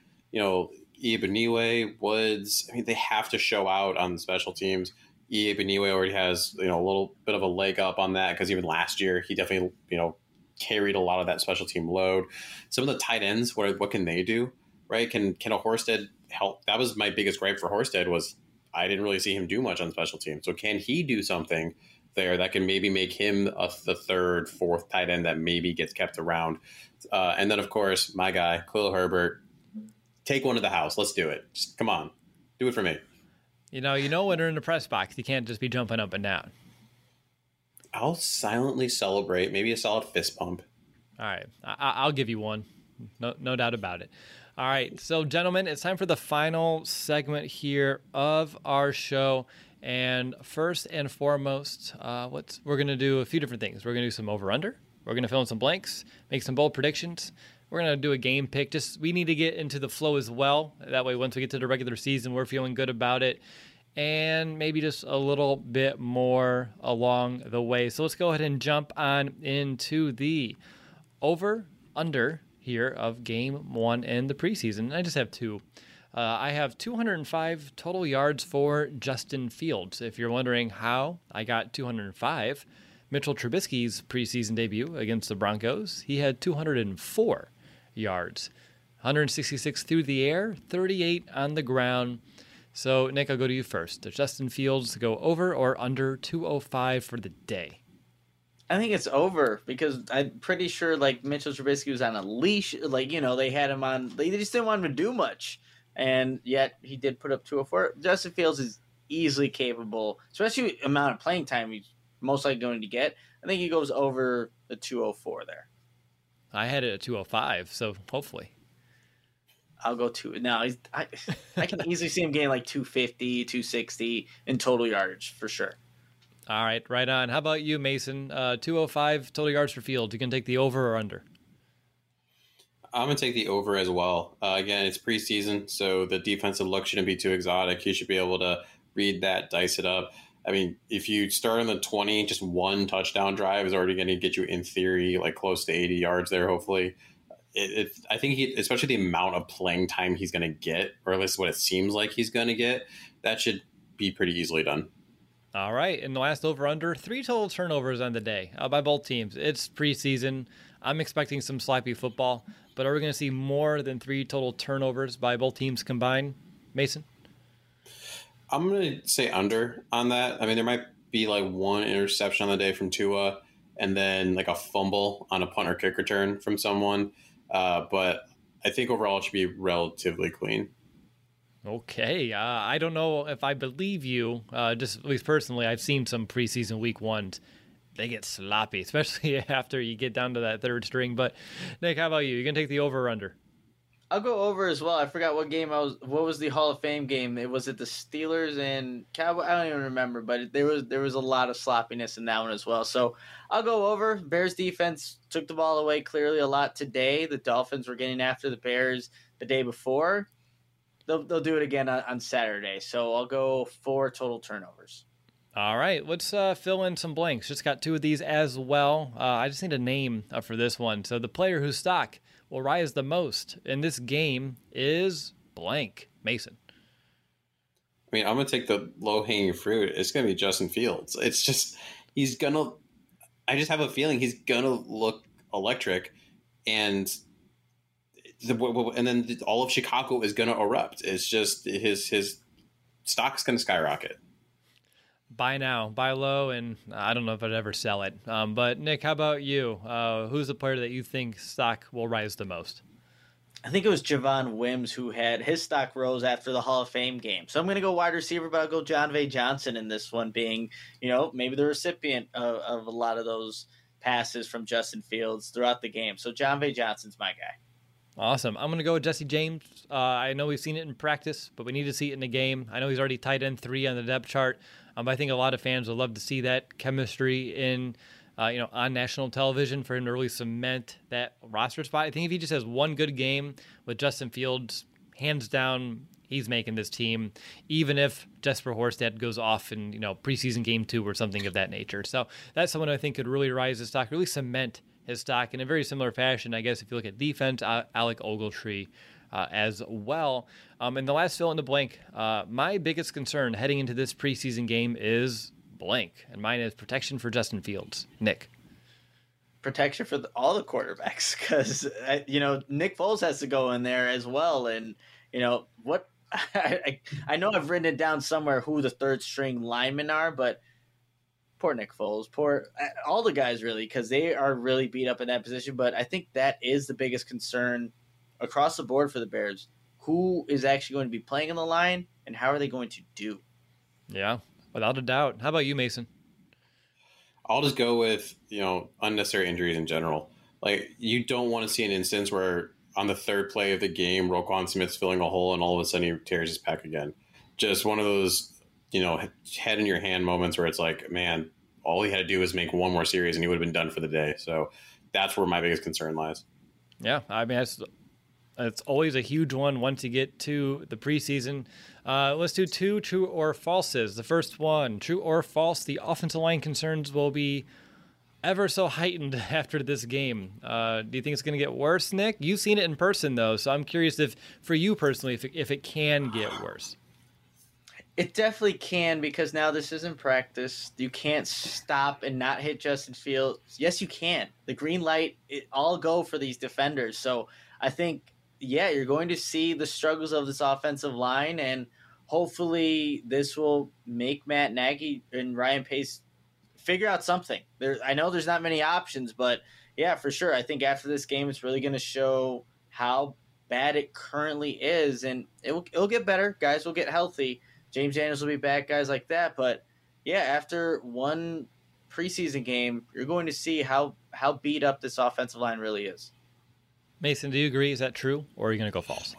Igbinoue, Woods, I mean, they have to show out on the special teams. Igbinoue already has, a little bit of a leg up on that because even last year he definitely, carried a lot of that special team load. Some of the tight ends, what can they do, right? Can a Horsted help? That was my biggest gripe for Horsted was I didn't really see him do much on special teams. So can he do something there that can maybe make him the third, fourth tight end that maybe gets kept around? And then, of course, my guy, Khalil Herbert, take one to the house. Let's do it. Just come on. Do it for me. When you're in the press box, you can't just be jumping up and down. I'll silently celebrate. Maybe a solid fist pump. All right. I'll give you one. No doubt about it. All right. So, gentlemen, it's time for the final segment here of our show. And first and foremost, we're going to do a few different things. We're going to do some over-under. We're going to fill in some blanks, make some bold predictions. We're going to do a game pick. We need to get into the flow as well. That way, once we get to the regular season, we're feeling good about it. And maybe just a little bit more along the way. So let's go ahead and jump on into the over-under here of game one in the preseason. I just have two. I have 205 total yards for Justin Fields. If you're wondering how I got 205, Mitchell Trubisky's preseason debut against the Broncos, he had 204 yards, 166 through the air, 38 on the ground. So, Nick, I'll go to you first. Does Justin Fields go over or under 205 for the day? I think it's over because I'm pretty sure Mitchell Trubisky was on a leash. They had him on. They just didn't want him to do much. And yet he did put up 204. Justin Fields is easily capable, especially the amount of playing time he's most likely going to get. I think he goes over the 204 there. I had it at 205, so hopefully. I'll go to now. I can easily see him getting 250, 260 in total yardage for sure. All right, right on. How about you, Mason? 205 total yards for Fields. You can take the over or under? I'm going to take the over as well. Again, it's preseason, so the defensive look shouldn't be too exotic. He should be able to read that, dice it up. I mean, if you start on the 20, just one touchdown drive is already going to get you, in theory, like close to 80 yards there, hopefully. I think especially the amount of playing time he's going to get, or at least what it seems like he's going to get, that should be pretty easily done. All right, and the last over-under, 3 total turnovers on the day by both teams. It's preseason. I'm expecting some sloppy football, but are we going to see more than 3 total turnovers by both teams combined, Mason? I'm going to say under on that. I mean, there might be like one interception on the day from Tua, and then like a fumble on a punt or kick return from someone. But I think overall it should be relatively clean. Okay, I don't know if I believe you. Just at least personally, I've seen some preseason week ones. They get sloppy, especially after you get down to that third string. But Nick, how about you? You gonna take the over or under? I'll go over as well. I forgot what game What was the Hall of Fame game? Was it the Steelers and Cowboys? I don't even remember, but there was a lot of sloppiness in that one as well. So I'll go over. Bears defense took the ball away clearly a lot today. The Dolphins were getting after the Bears the day before. They'll do it again on Saturday. So I'll go 4 total turnovers. All right, let's fill in some blanks. Just got 2 of these as well. I just need a name for this one. So the player whose stock will rise the most in this game is blank. Mason. I mean, I'm going to take the low-hanging fruit. It's going to be Justin Fields. It's just, I just have a feeling he's going to look electric, and then all of Chicago is going to erupt. It's just his stock's going to skyrocket. Buy now, buy low, and I don't know if I'd ever sell it. But Nick, how about you? Who's the player that you think stock will rise the most? I think it was Javon Wims who had his stock rose after the Hall of Fame game. So I'm going to go wide receiver, but I'll go Jon'Vea Johnson in this one, being, maybe the recipient of a lot of those passes from Justin Fields throughout the game. So Jon'Vea Johnson's my guy. Awesome. I'm going to go with Jesse James. I know we've seen it in practice, but we need to see it in the game. I know he's already tight end 3 on the depth chart. I think a lot of fans would love to see that chemistry in, on national television for him to really cement that roster spot. I think if he just has one good game with Justin Fields, hands down, he's making this team, even if Jesper Horsted goes off in, preseason game 2 or something of that nature. So that's someone I think could really rise his stock, really cement his stock in a very similar fashion, I guess, if you look at defense, Alec Ogletree as well. And the last fill in the blank, my biggest concern heading into this preseason game is blank, and mine is protection for Justin Fields. Nick. Protection for all the quarterbacks, because, Nick Foles has to go in there as well. And, what I know I've written it down somewhere who the third string linemen are, but poor Nick Foles, poor all the guys really, because they are really beat up in that position. But I think that is the biggest concern across the board for the Bears. Who is actually going to be playing in the line, and how are they going to do? Yeah, without a doubt. How about you, Mason? I'll just go with, unnecessary injuries in general. Like, you don't want to see an instance where on the third play of the game, Roquan Smith's filling a hole and all of a sudden he tears his pec again. Just one of those, head in your hand moments where it's like, man, all he had to do was make one more series and he would have been done for the day. So that's where my biggest concern lies. Yeah, I mean, it's always a huge one once you get to the preseason. Let's do 2 true or falses. The first one, true or false, the offensive line concerns will be ever so heightened after this game. Do you think it's going to get worse, Nick? You've seen it in person, though, so I'm curious if, for you personally, if it can get worse. It definitely can, because now this isn't practice. You can't stop and not hit Justin Fields. Yes, you can. The green light, all go for these defenders. So I think, you're going to see the struggles of this offensive line, and hopefully this will make Matt Nagy and Ryan Pace figure out something. I know there's not many options, but yeah, for sure. I think after this game, it's really going to show how bad it currently is, and it'll get better. Guys will get healthy. James Daniels will be back, guys like that. But yeah, after one preseason game, you're going to see how beat up this offensive line really is. Mason, do you agree? Is that true, or are you going to go false?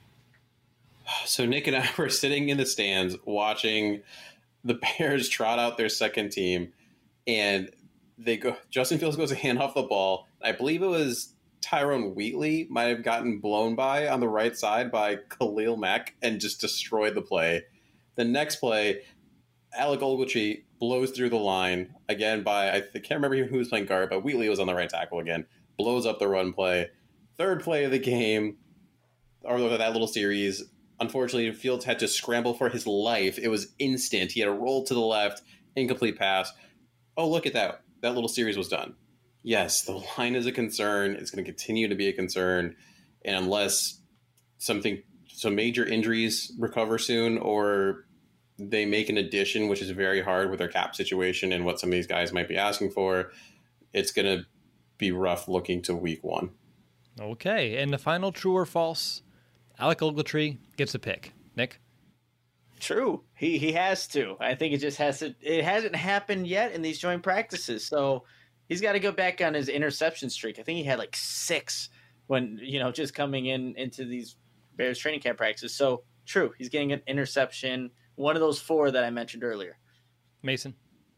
So Nick and I were sitting in the stands watching the Bears trot out their second team, and Justin Fields goes to hand off the ball. I believe it was Tyrone Wheatley might have gotten blown by on the right side by Khalil Mack and just destroyed the play. The next play, Alec Ogletree blows through the line again by, I can't remember who was playing guard, but Wheatley was on the right tackle again, blows up the run play. Third play of the game, or that little series, unfortunately, Fields had to scramble for his life. It was instant. He had a roll to the left, incomplete pass. Oh, look at that. That little series was done. Yes, the line is a concern. It's going to continue to be a concern. And unless some major injuries recover soon, or they make an addition, which is very hard with their cap situation and what some of these guys might be asking for, it's going to be rough looking to week 1. Okay, and the final true or false, Alec Ogletree gets a pick. Nick? True. He has to. I think it just has to. It hasn't happened yet in these joint practices, so he's got to go back on his interception streak. I think he had like 6 when, just coming into these Bears training camp practices. So true. He's getting an interception. One of those 4 that I mentioned earlier. Mason?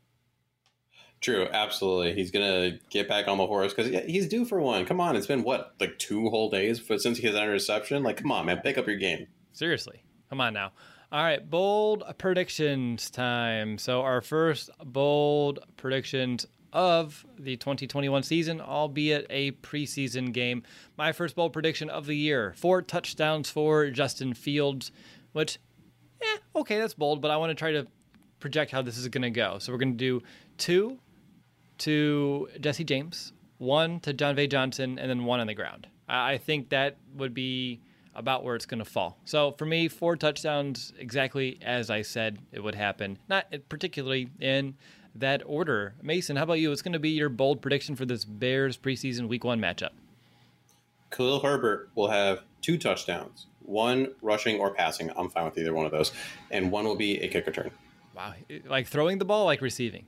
True, absolutely. He's going to get back on the horse because he's due for one. Come on, it's been, 2 whole days since he has an interception? Come on, man, pick up your game. Seriously. Come on now. All right, bold predictions time. So our first bold predictions of the 2021 season, albeit a preseason game. My first bold prediction of the year, 4 touchdowns for Justin Fields, which, okay, that's bold, but I want to try to project how this is going to go. So we're going to do 2 to Jesse James, 1 to John V. Johnson, and then 1 on the ground. I think that would be about where it's going to fall. So for me, 4 touchdowns, exactly as I said it would happen. Not particularly in that order. Mason, how about you? What's going to be your bold prediction for this Bears preseason week 1 matchup? Khalil Herbert will have 2 touchdowns, 1 rushing or passing. I'm fine with either one of those. And 1 will be a kick return. Wow. Like throwing the ball, like receiving?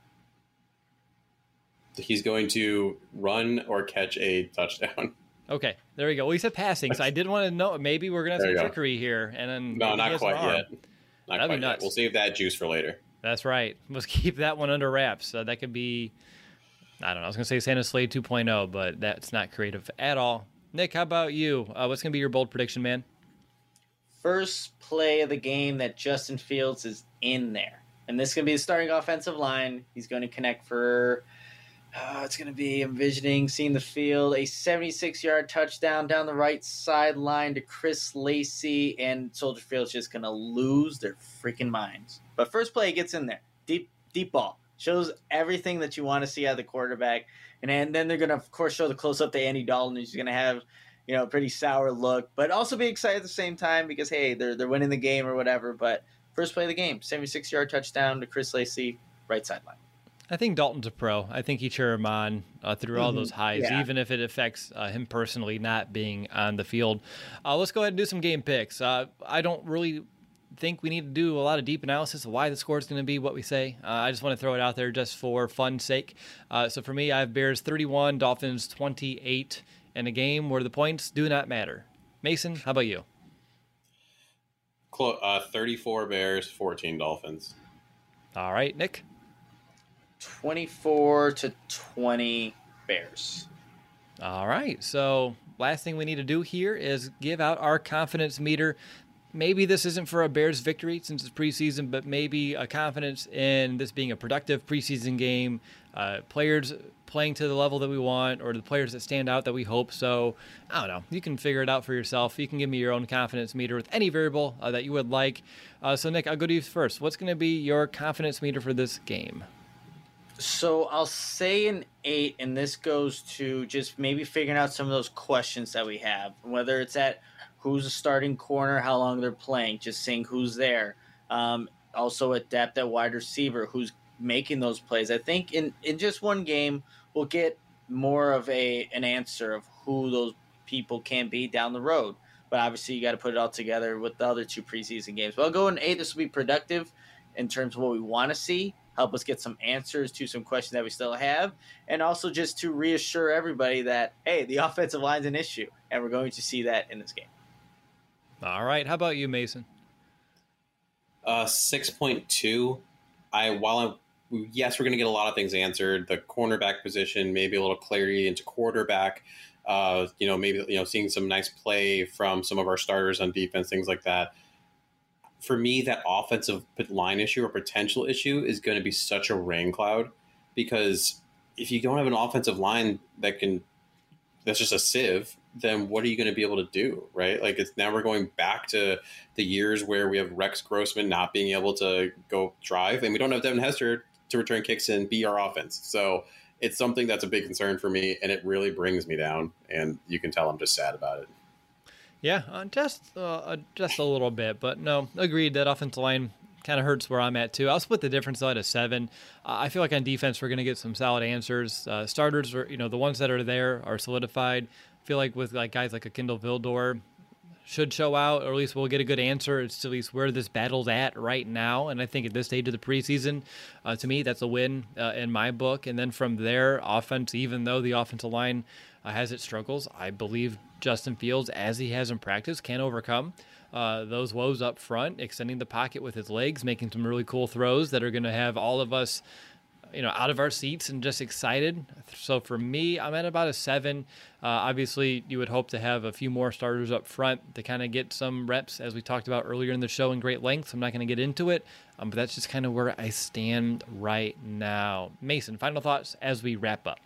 He's going to run or catch a touchdown. Okay, there we go. Well, he said passing, so I did want to know. Maybe we're going to have some trickery here. And then no, not quite yet. That'd be nuts. We'll save that juice for later. That's right. Let's keep that one under wraps. That could be, I don't know, I was going to say Santa Slade 2.0, but that's not creative at all. Nick, how about you? What's going to be your bold prediction, man? First play of the game that Justin Fields is in there. And this is going to be the starting offensive line. He's going to connect for, it's going to be seeing the field, a 76-yard touchdown down the right sideline to Chris Lacey, and Soldier Field's just going to lose their freaking minds. But first play, he gets in there. Deep ball. Shows everything that you want to see out of the quarterback. And then they're going to, of course, show the close-up to Andy Dalton, who's going to have, a pretty sour look, but also be excited at the same time because, hey, they're winning the game or whatever. But first play of the game, 76-yard touchdown to Chris Lacey, right sideline. I think Dalton's a pro. I think he cheer him on through all those highs, even if it affects him personally not being on the field. Let's go ahead and do some game picks. I don't really think we need to do a lot of deep analysis of why the score is going to be what we say. I just want to throw it out there just for fun's sake. So for me, I have Bears 31, Dolphins 28 in a game where the points do not matter. Mason, how about you? 34 Bears, 14 Dolphins. All right, Nick? 24-20 Bears. All right, so last thing we need to do here is give out our confidence meter. Maybe this isn't for a Bears victory since it's preseason, but maybe a confidence in this being a productive preseason game, players playing to the level that we want, or the players that stand out that we hope. So, I don't know. You can figure it out for yourself. You can give me your own confidence meter with any variable that you would like. So, Nick, I'll go to you first. What's going to be your confidence meter for this game? So I'll say an 8, and this goes to just maybe figuring out some of those questions that we have, whether it's at who's a starting corner, how long they're playing, just seeing who's there. Also at depth at wide receiver, who's making those plays. I think in just one game, we'll get more of an answer of who those people can be down the road. But obviously, you got to put it all together with the other 2 preseason games. But I'll go in 8. This will be productive in terms of what we want to see, help us get some answers to some questions that we still have, and also just to reassure everybody that, hey, the offensive line's an issue, and we're going to see that in this game. All right. How about you, Mason? 6.2. Yes, we're going to get a lot of things answered. The cornerback position, maybe a little clarity into quarterback. Maybe seeing some nice play from some of our starters on defense, things like that. for me, that offensive line issue or potential issue is going to be such a rain cloud, because if you don't have an offensive line that's just a sieve, then what are you going to be able to do, right? Like, it's now we're going back to the years where we have Rex Grossman not being able to go drive, and we don't have Devin Hester to return kicks and be our offense. So it's something that's a big concern for me, and it really brings me down. And you can tell I'm just sad about it. Yeah, just a little bit, but no, agreed that offensive line kind of hurts where I'm at too. I'll split the difference though at a 7. I feel like on defense we're going to get some solid answers. Starters are, the ones that are there are solidified. I feel like with like guys like a Kindle Vildor should show out, or at least we'll get a good answer. It's at least where this battle's at right now. And I think at this stage of the preseason, to me, that's a win in my book. And then from there, offense, even though the offensive line has its struggles, I believe Justin Fields, as he has in practice, can overcome those woes up front, extending the pocket with his legs, making some really cool throws that are going to have all of us out of our seats and just excited. So for me, I'm at about a 7. Obviously, you would hope to have a few more starters up front to kind of get some reps, as we talked about earlier in the show, in great length. So I'm not going to get into it, but that's just kind of where I stand right now. Mason, final thoughts as we wrap up.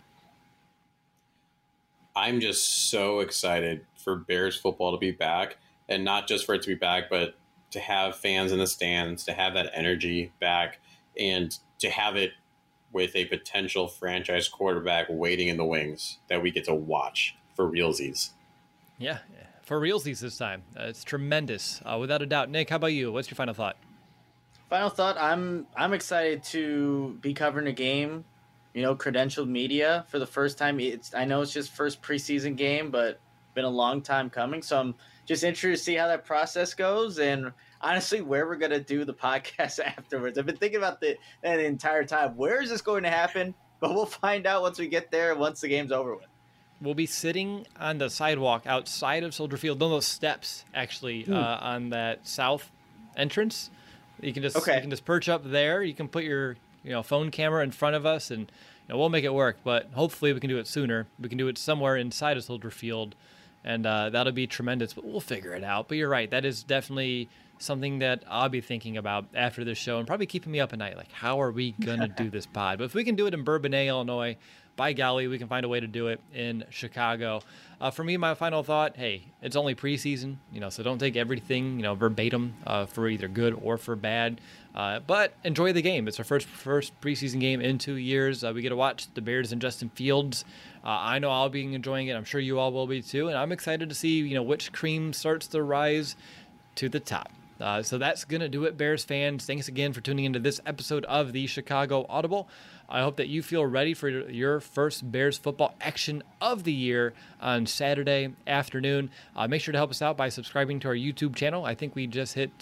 I'm just so excited for Bears football to be back, and not just for it to be back, but to have fans in the stands, to have that energy back, and to have it with a potential franchise quarterback waiting in the wings that we get to watch for realsies. Yeah, for realsies this time. It's tremendous, without a doubt. Nick, how about you? What's your final thought? Final thought, I'm excited to be covering a game, credentialed media for the first time. I know it's just first preseason game, but been a long time coming. So I'm just interested to see how that process goes, and honestly, where we're going to do the podcast afterwards. I've been thinking about that the entire time. Where is this going to happen? But we'll find out once we get there, once the game's over with. We'll be sitting on the sidewalk outside of Soldier Field, on those steps, actually, on that south entrance. You can just perch up there. You can put your phone camera in front of us, and we'll make it work. But hopefully we can do it sooner. We can do it somewhere inside of Soldier Field, and that'll be tremendous. But we'll figure it out. But you're right. That is definitely something that I'll be thinking about after this show, and probably keeping me up at night. Like, how are we going to do this pod? But if we can do it in Bourbonnais, Illinois, by golly, we can find a way to do it in Chicago. For me, my final thought, hey, it's only preseason, so don't take everything, verbatim for either good or for bad. But enjoy the game. It's our first preseason game in 2 years. We get to watch the Bears and Justin Fields. I know I'll be enjoying it. I'm sure you all will be too. And I'm excited to see, which cream starts to rise to the top. So that's going to do it, Bears fans. Thanks again for tuning into this episode of the Chicago Audible. I hope that you feel ready for your first Bears football action of the year on Saturday afternoon. Make sure to help us out by subscribing to our YouTube channel. I think we just hit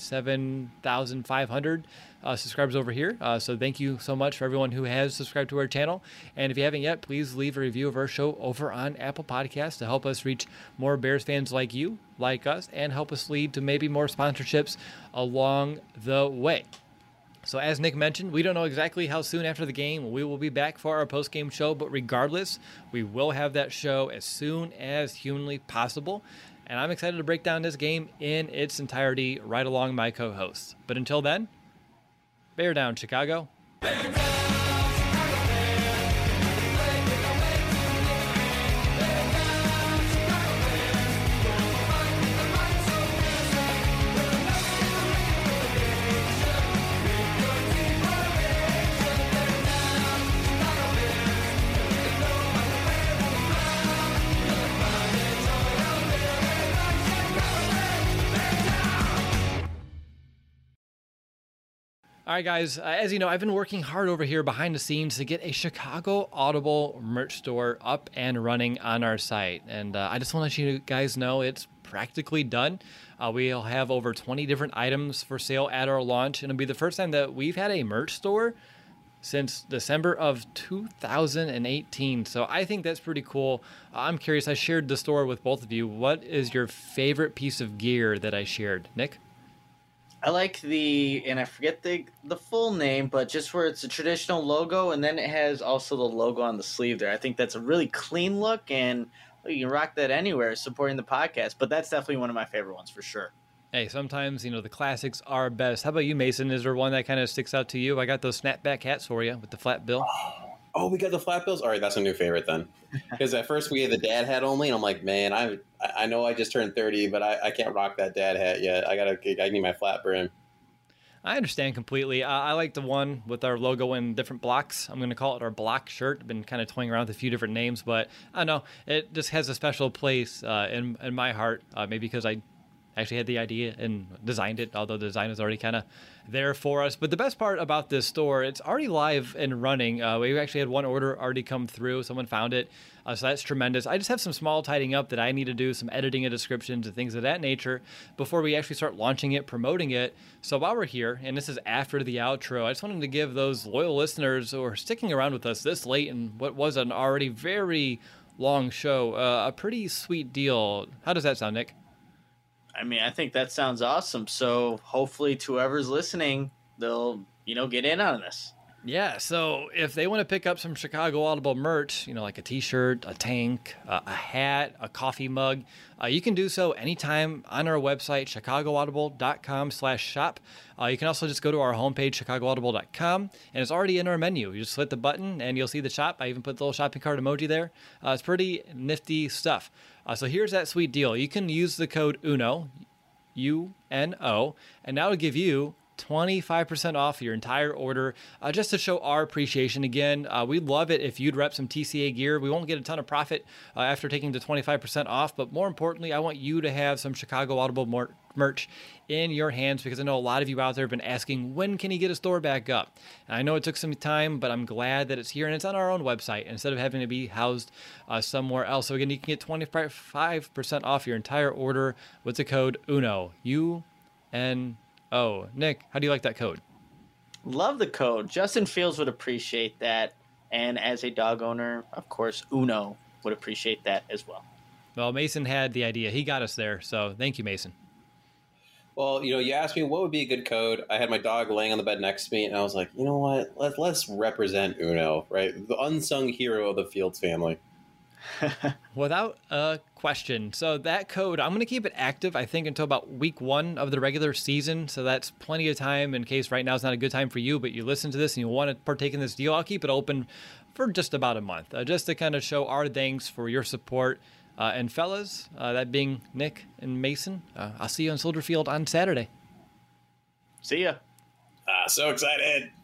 7,500 subscribers over here. So thank you so much for everyone who has subscribed to our channel. And if you haven't yet, please leave a review of our show over on Apple Podcasts to help us reach more Bears fans like you, like us, and help us lead to maybe more sponsorships along the way. So as Nick mentioned, we don't know exactly how soon after the game we will be back for our post-game show, but regardless, we will have that show as soon as humanly possible. And I'm excited to break down this game in its entirety right along my co-hosts. But until then, bear down, Chicago. All right, guys, as you know, I've been working hard over here behind the scenes to get a Chicago Audible merch store up and running on our site. And I just want to let you guys know it's practically done. We'll have over 20 different items for sale at our launch. And it'll be the first time that we've had a merch store since December of 2018. So I think that's pretty cool. I'm curious, I shared the store with both of you. What is your favorite piece of gear that I shared? Nick? I like and I forget the full name, but just where it's a traditional logo, and then it has also the logo on the sleeve there. I think that's a really clean look, and you can rock that anywhere supporting the podcast, but that's definitely one of my favorite ones for sure. Hey, sometimes, the classics are best. How about you, Mason? Is there one that kind of sticks out to you? I got those snapback hats for you with the flat bill. Oh, we got the flat bills. All right, that's a new favorite then. Because at first we had the dad hat only, and I'm like, man, I know I just turned 30, but I can't rock that dad hat yet. I need my flat brim. I understand completely. I like the one with our logo in different blocks. I'm going to call it our block shirt. Been kind of toying around with a few different names, but I don't know. It just has a special place in my heart. Maybe because I actually had the idea and designed it, although the design is already kind of there for us. But the best part about this store, it's already live and running. We actually had one order already come through. Someone found it. So that's tremendous. I just have some small tidying up that I need to do, some editing and descriptions and things of that nature before we actually start launching it, promoting it. So while we're here, and this is after the outro, I just wanted to give those loyal listeners who are sticking around with us this late in what was an already very long show, a pretty sweet deal. How does that sound, Nick? I mean, I think that sounds awesome. So hopefully to whoever's listening, they'll, get in on this. Yeah, so if they want to pick up some Chicago Audible merch, like a t-shirt, a tank, a hat, a coffee mug, you can do so anytime on our website, chicagoaudible.com/shop. You can also just go to our homepage, chicagoaudible.com, and it's already in our menu. You just hit the button and you'll see the shop. I even put the little shopping cart emoji there. It's pretty nifty stuff. So here's that sweet deal. You can use the code UNO, UNO, and that will give you 25% off your entire order, just to show our appreciation. Again, we'd love it if you'd rep some TCA gear. We won't get a ton of profit after taking the 25% off, but more importantly, I want you to have some Chicago Audible merch in your hands, because I know a lot of you out there have been asking, when can he get a store back up? And I know it took some time, but I'm glad that it's here and it's on our own website instead of having to be housed somewhere else. So again, you can get 25% off your entire order with the code UNO, UNO. Nick, how do you like that code? Love the code. Justin Fields would appreciate that. And as a dog owner, of course, Uno would appreciate that as well. Well, Mason had the idea. He got us there. So thank you, Mason. Well, you asked me what would be a good code. I had my dog laying on the bed next to me, and I was like, you know what? Let's represent Uno, right? The unsung hero of the Fields family. Without a question. So that code, I'm going to keep it active, I think, until about week 1 of the regular season. So that's plenty of time in case right now is not a good time for you, but you listen to this and you want to partake in this deal. I'll keep it open for just about a month, just to kind of show our thanks for your support. And fellas, that being Nick and Mason, I'll see you on Soldier Field on Saturday. See ya. So excited.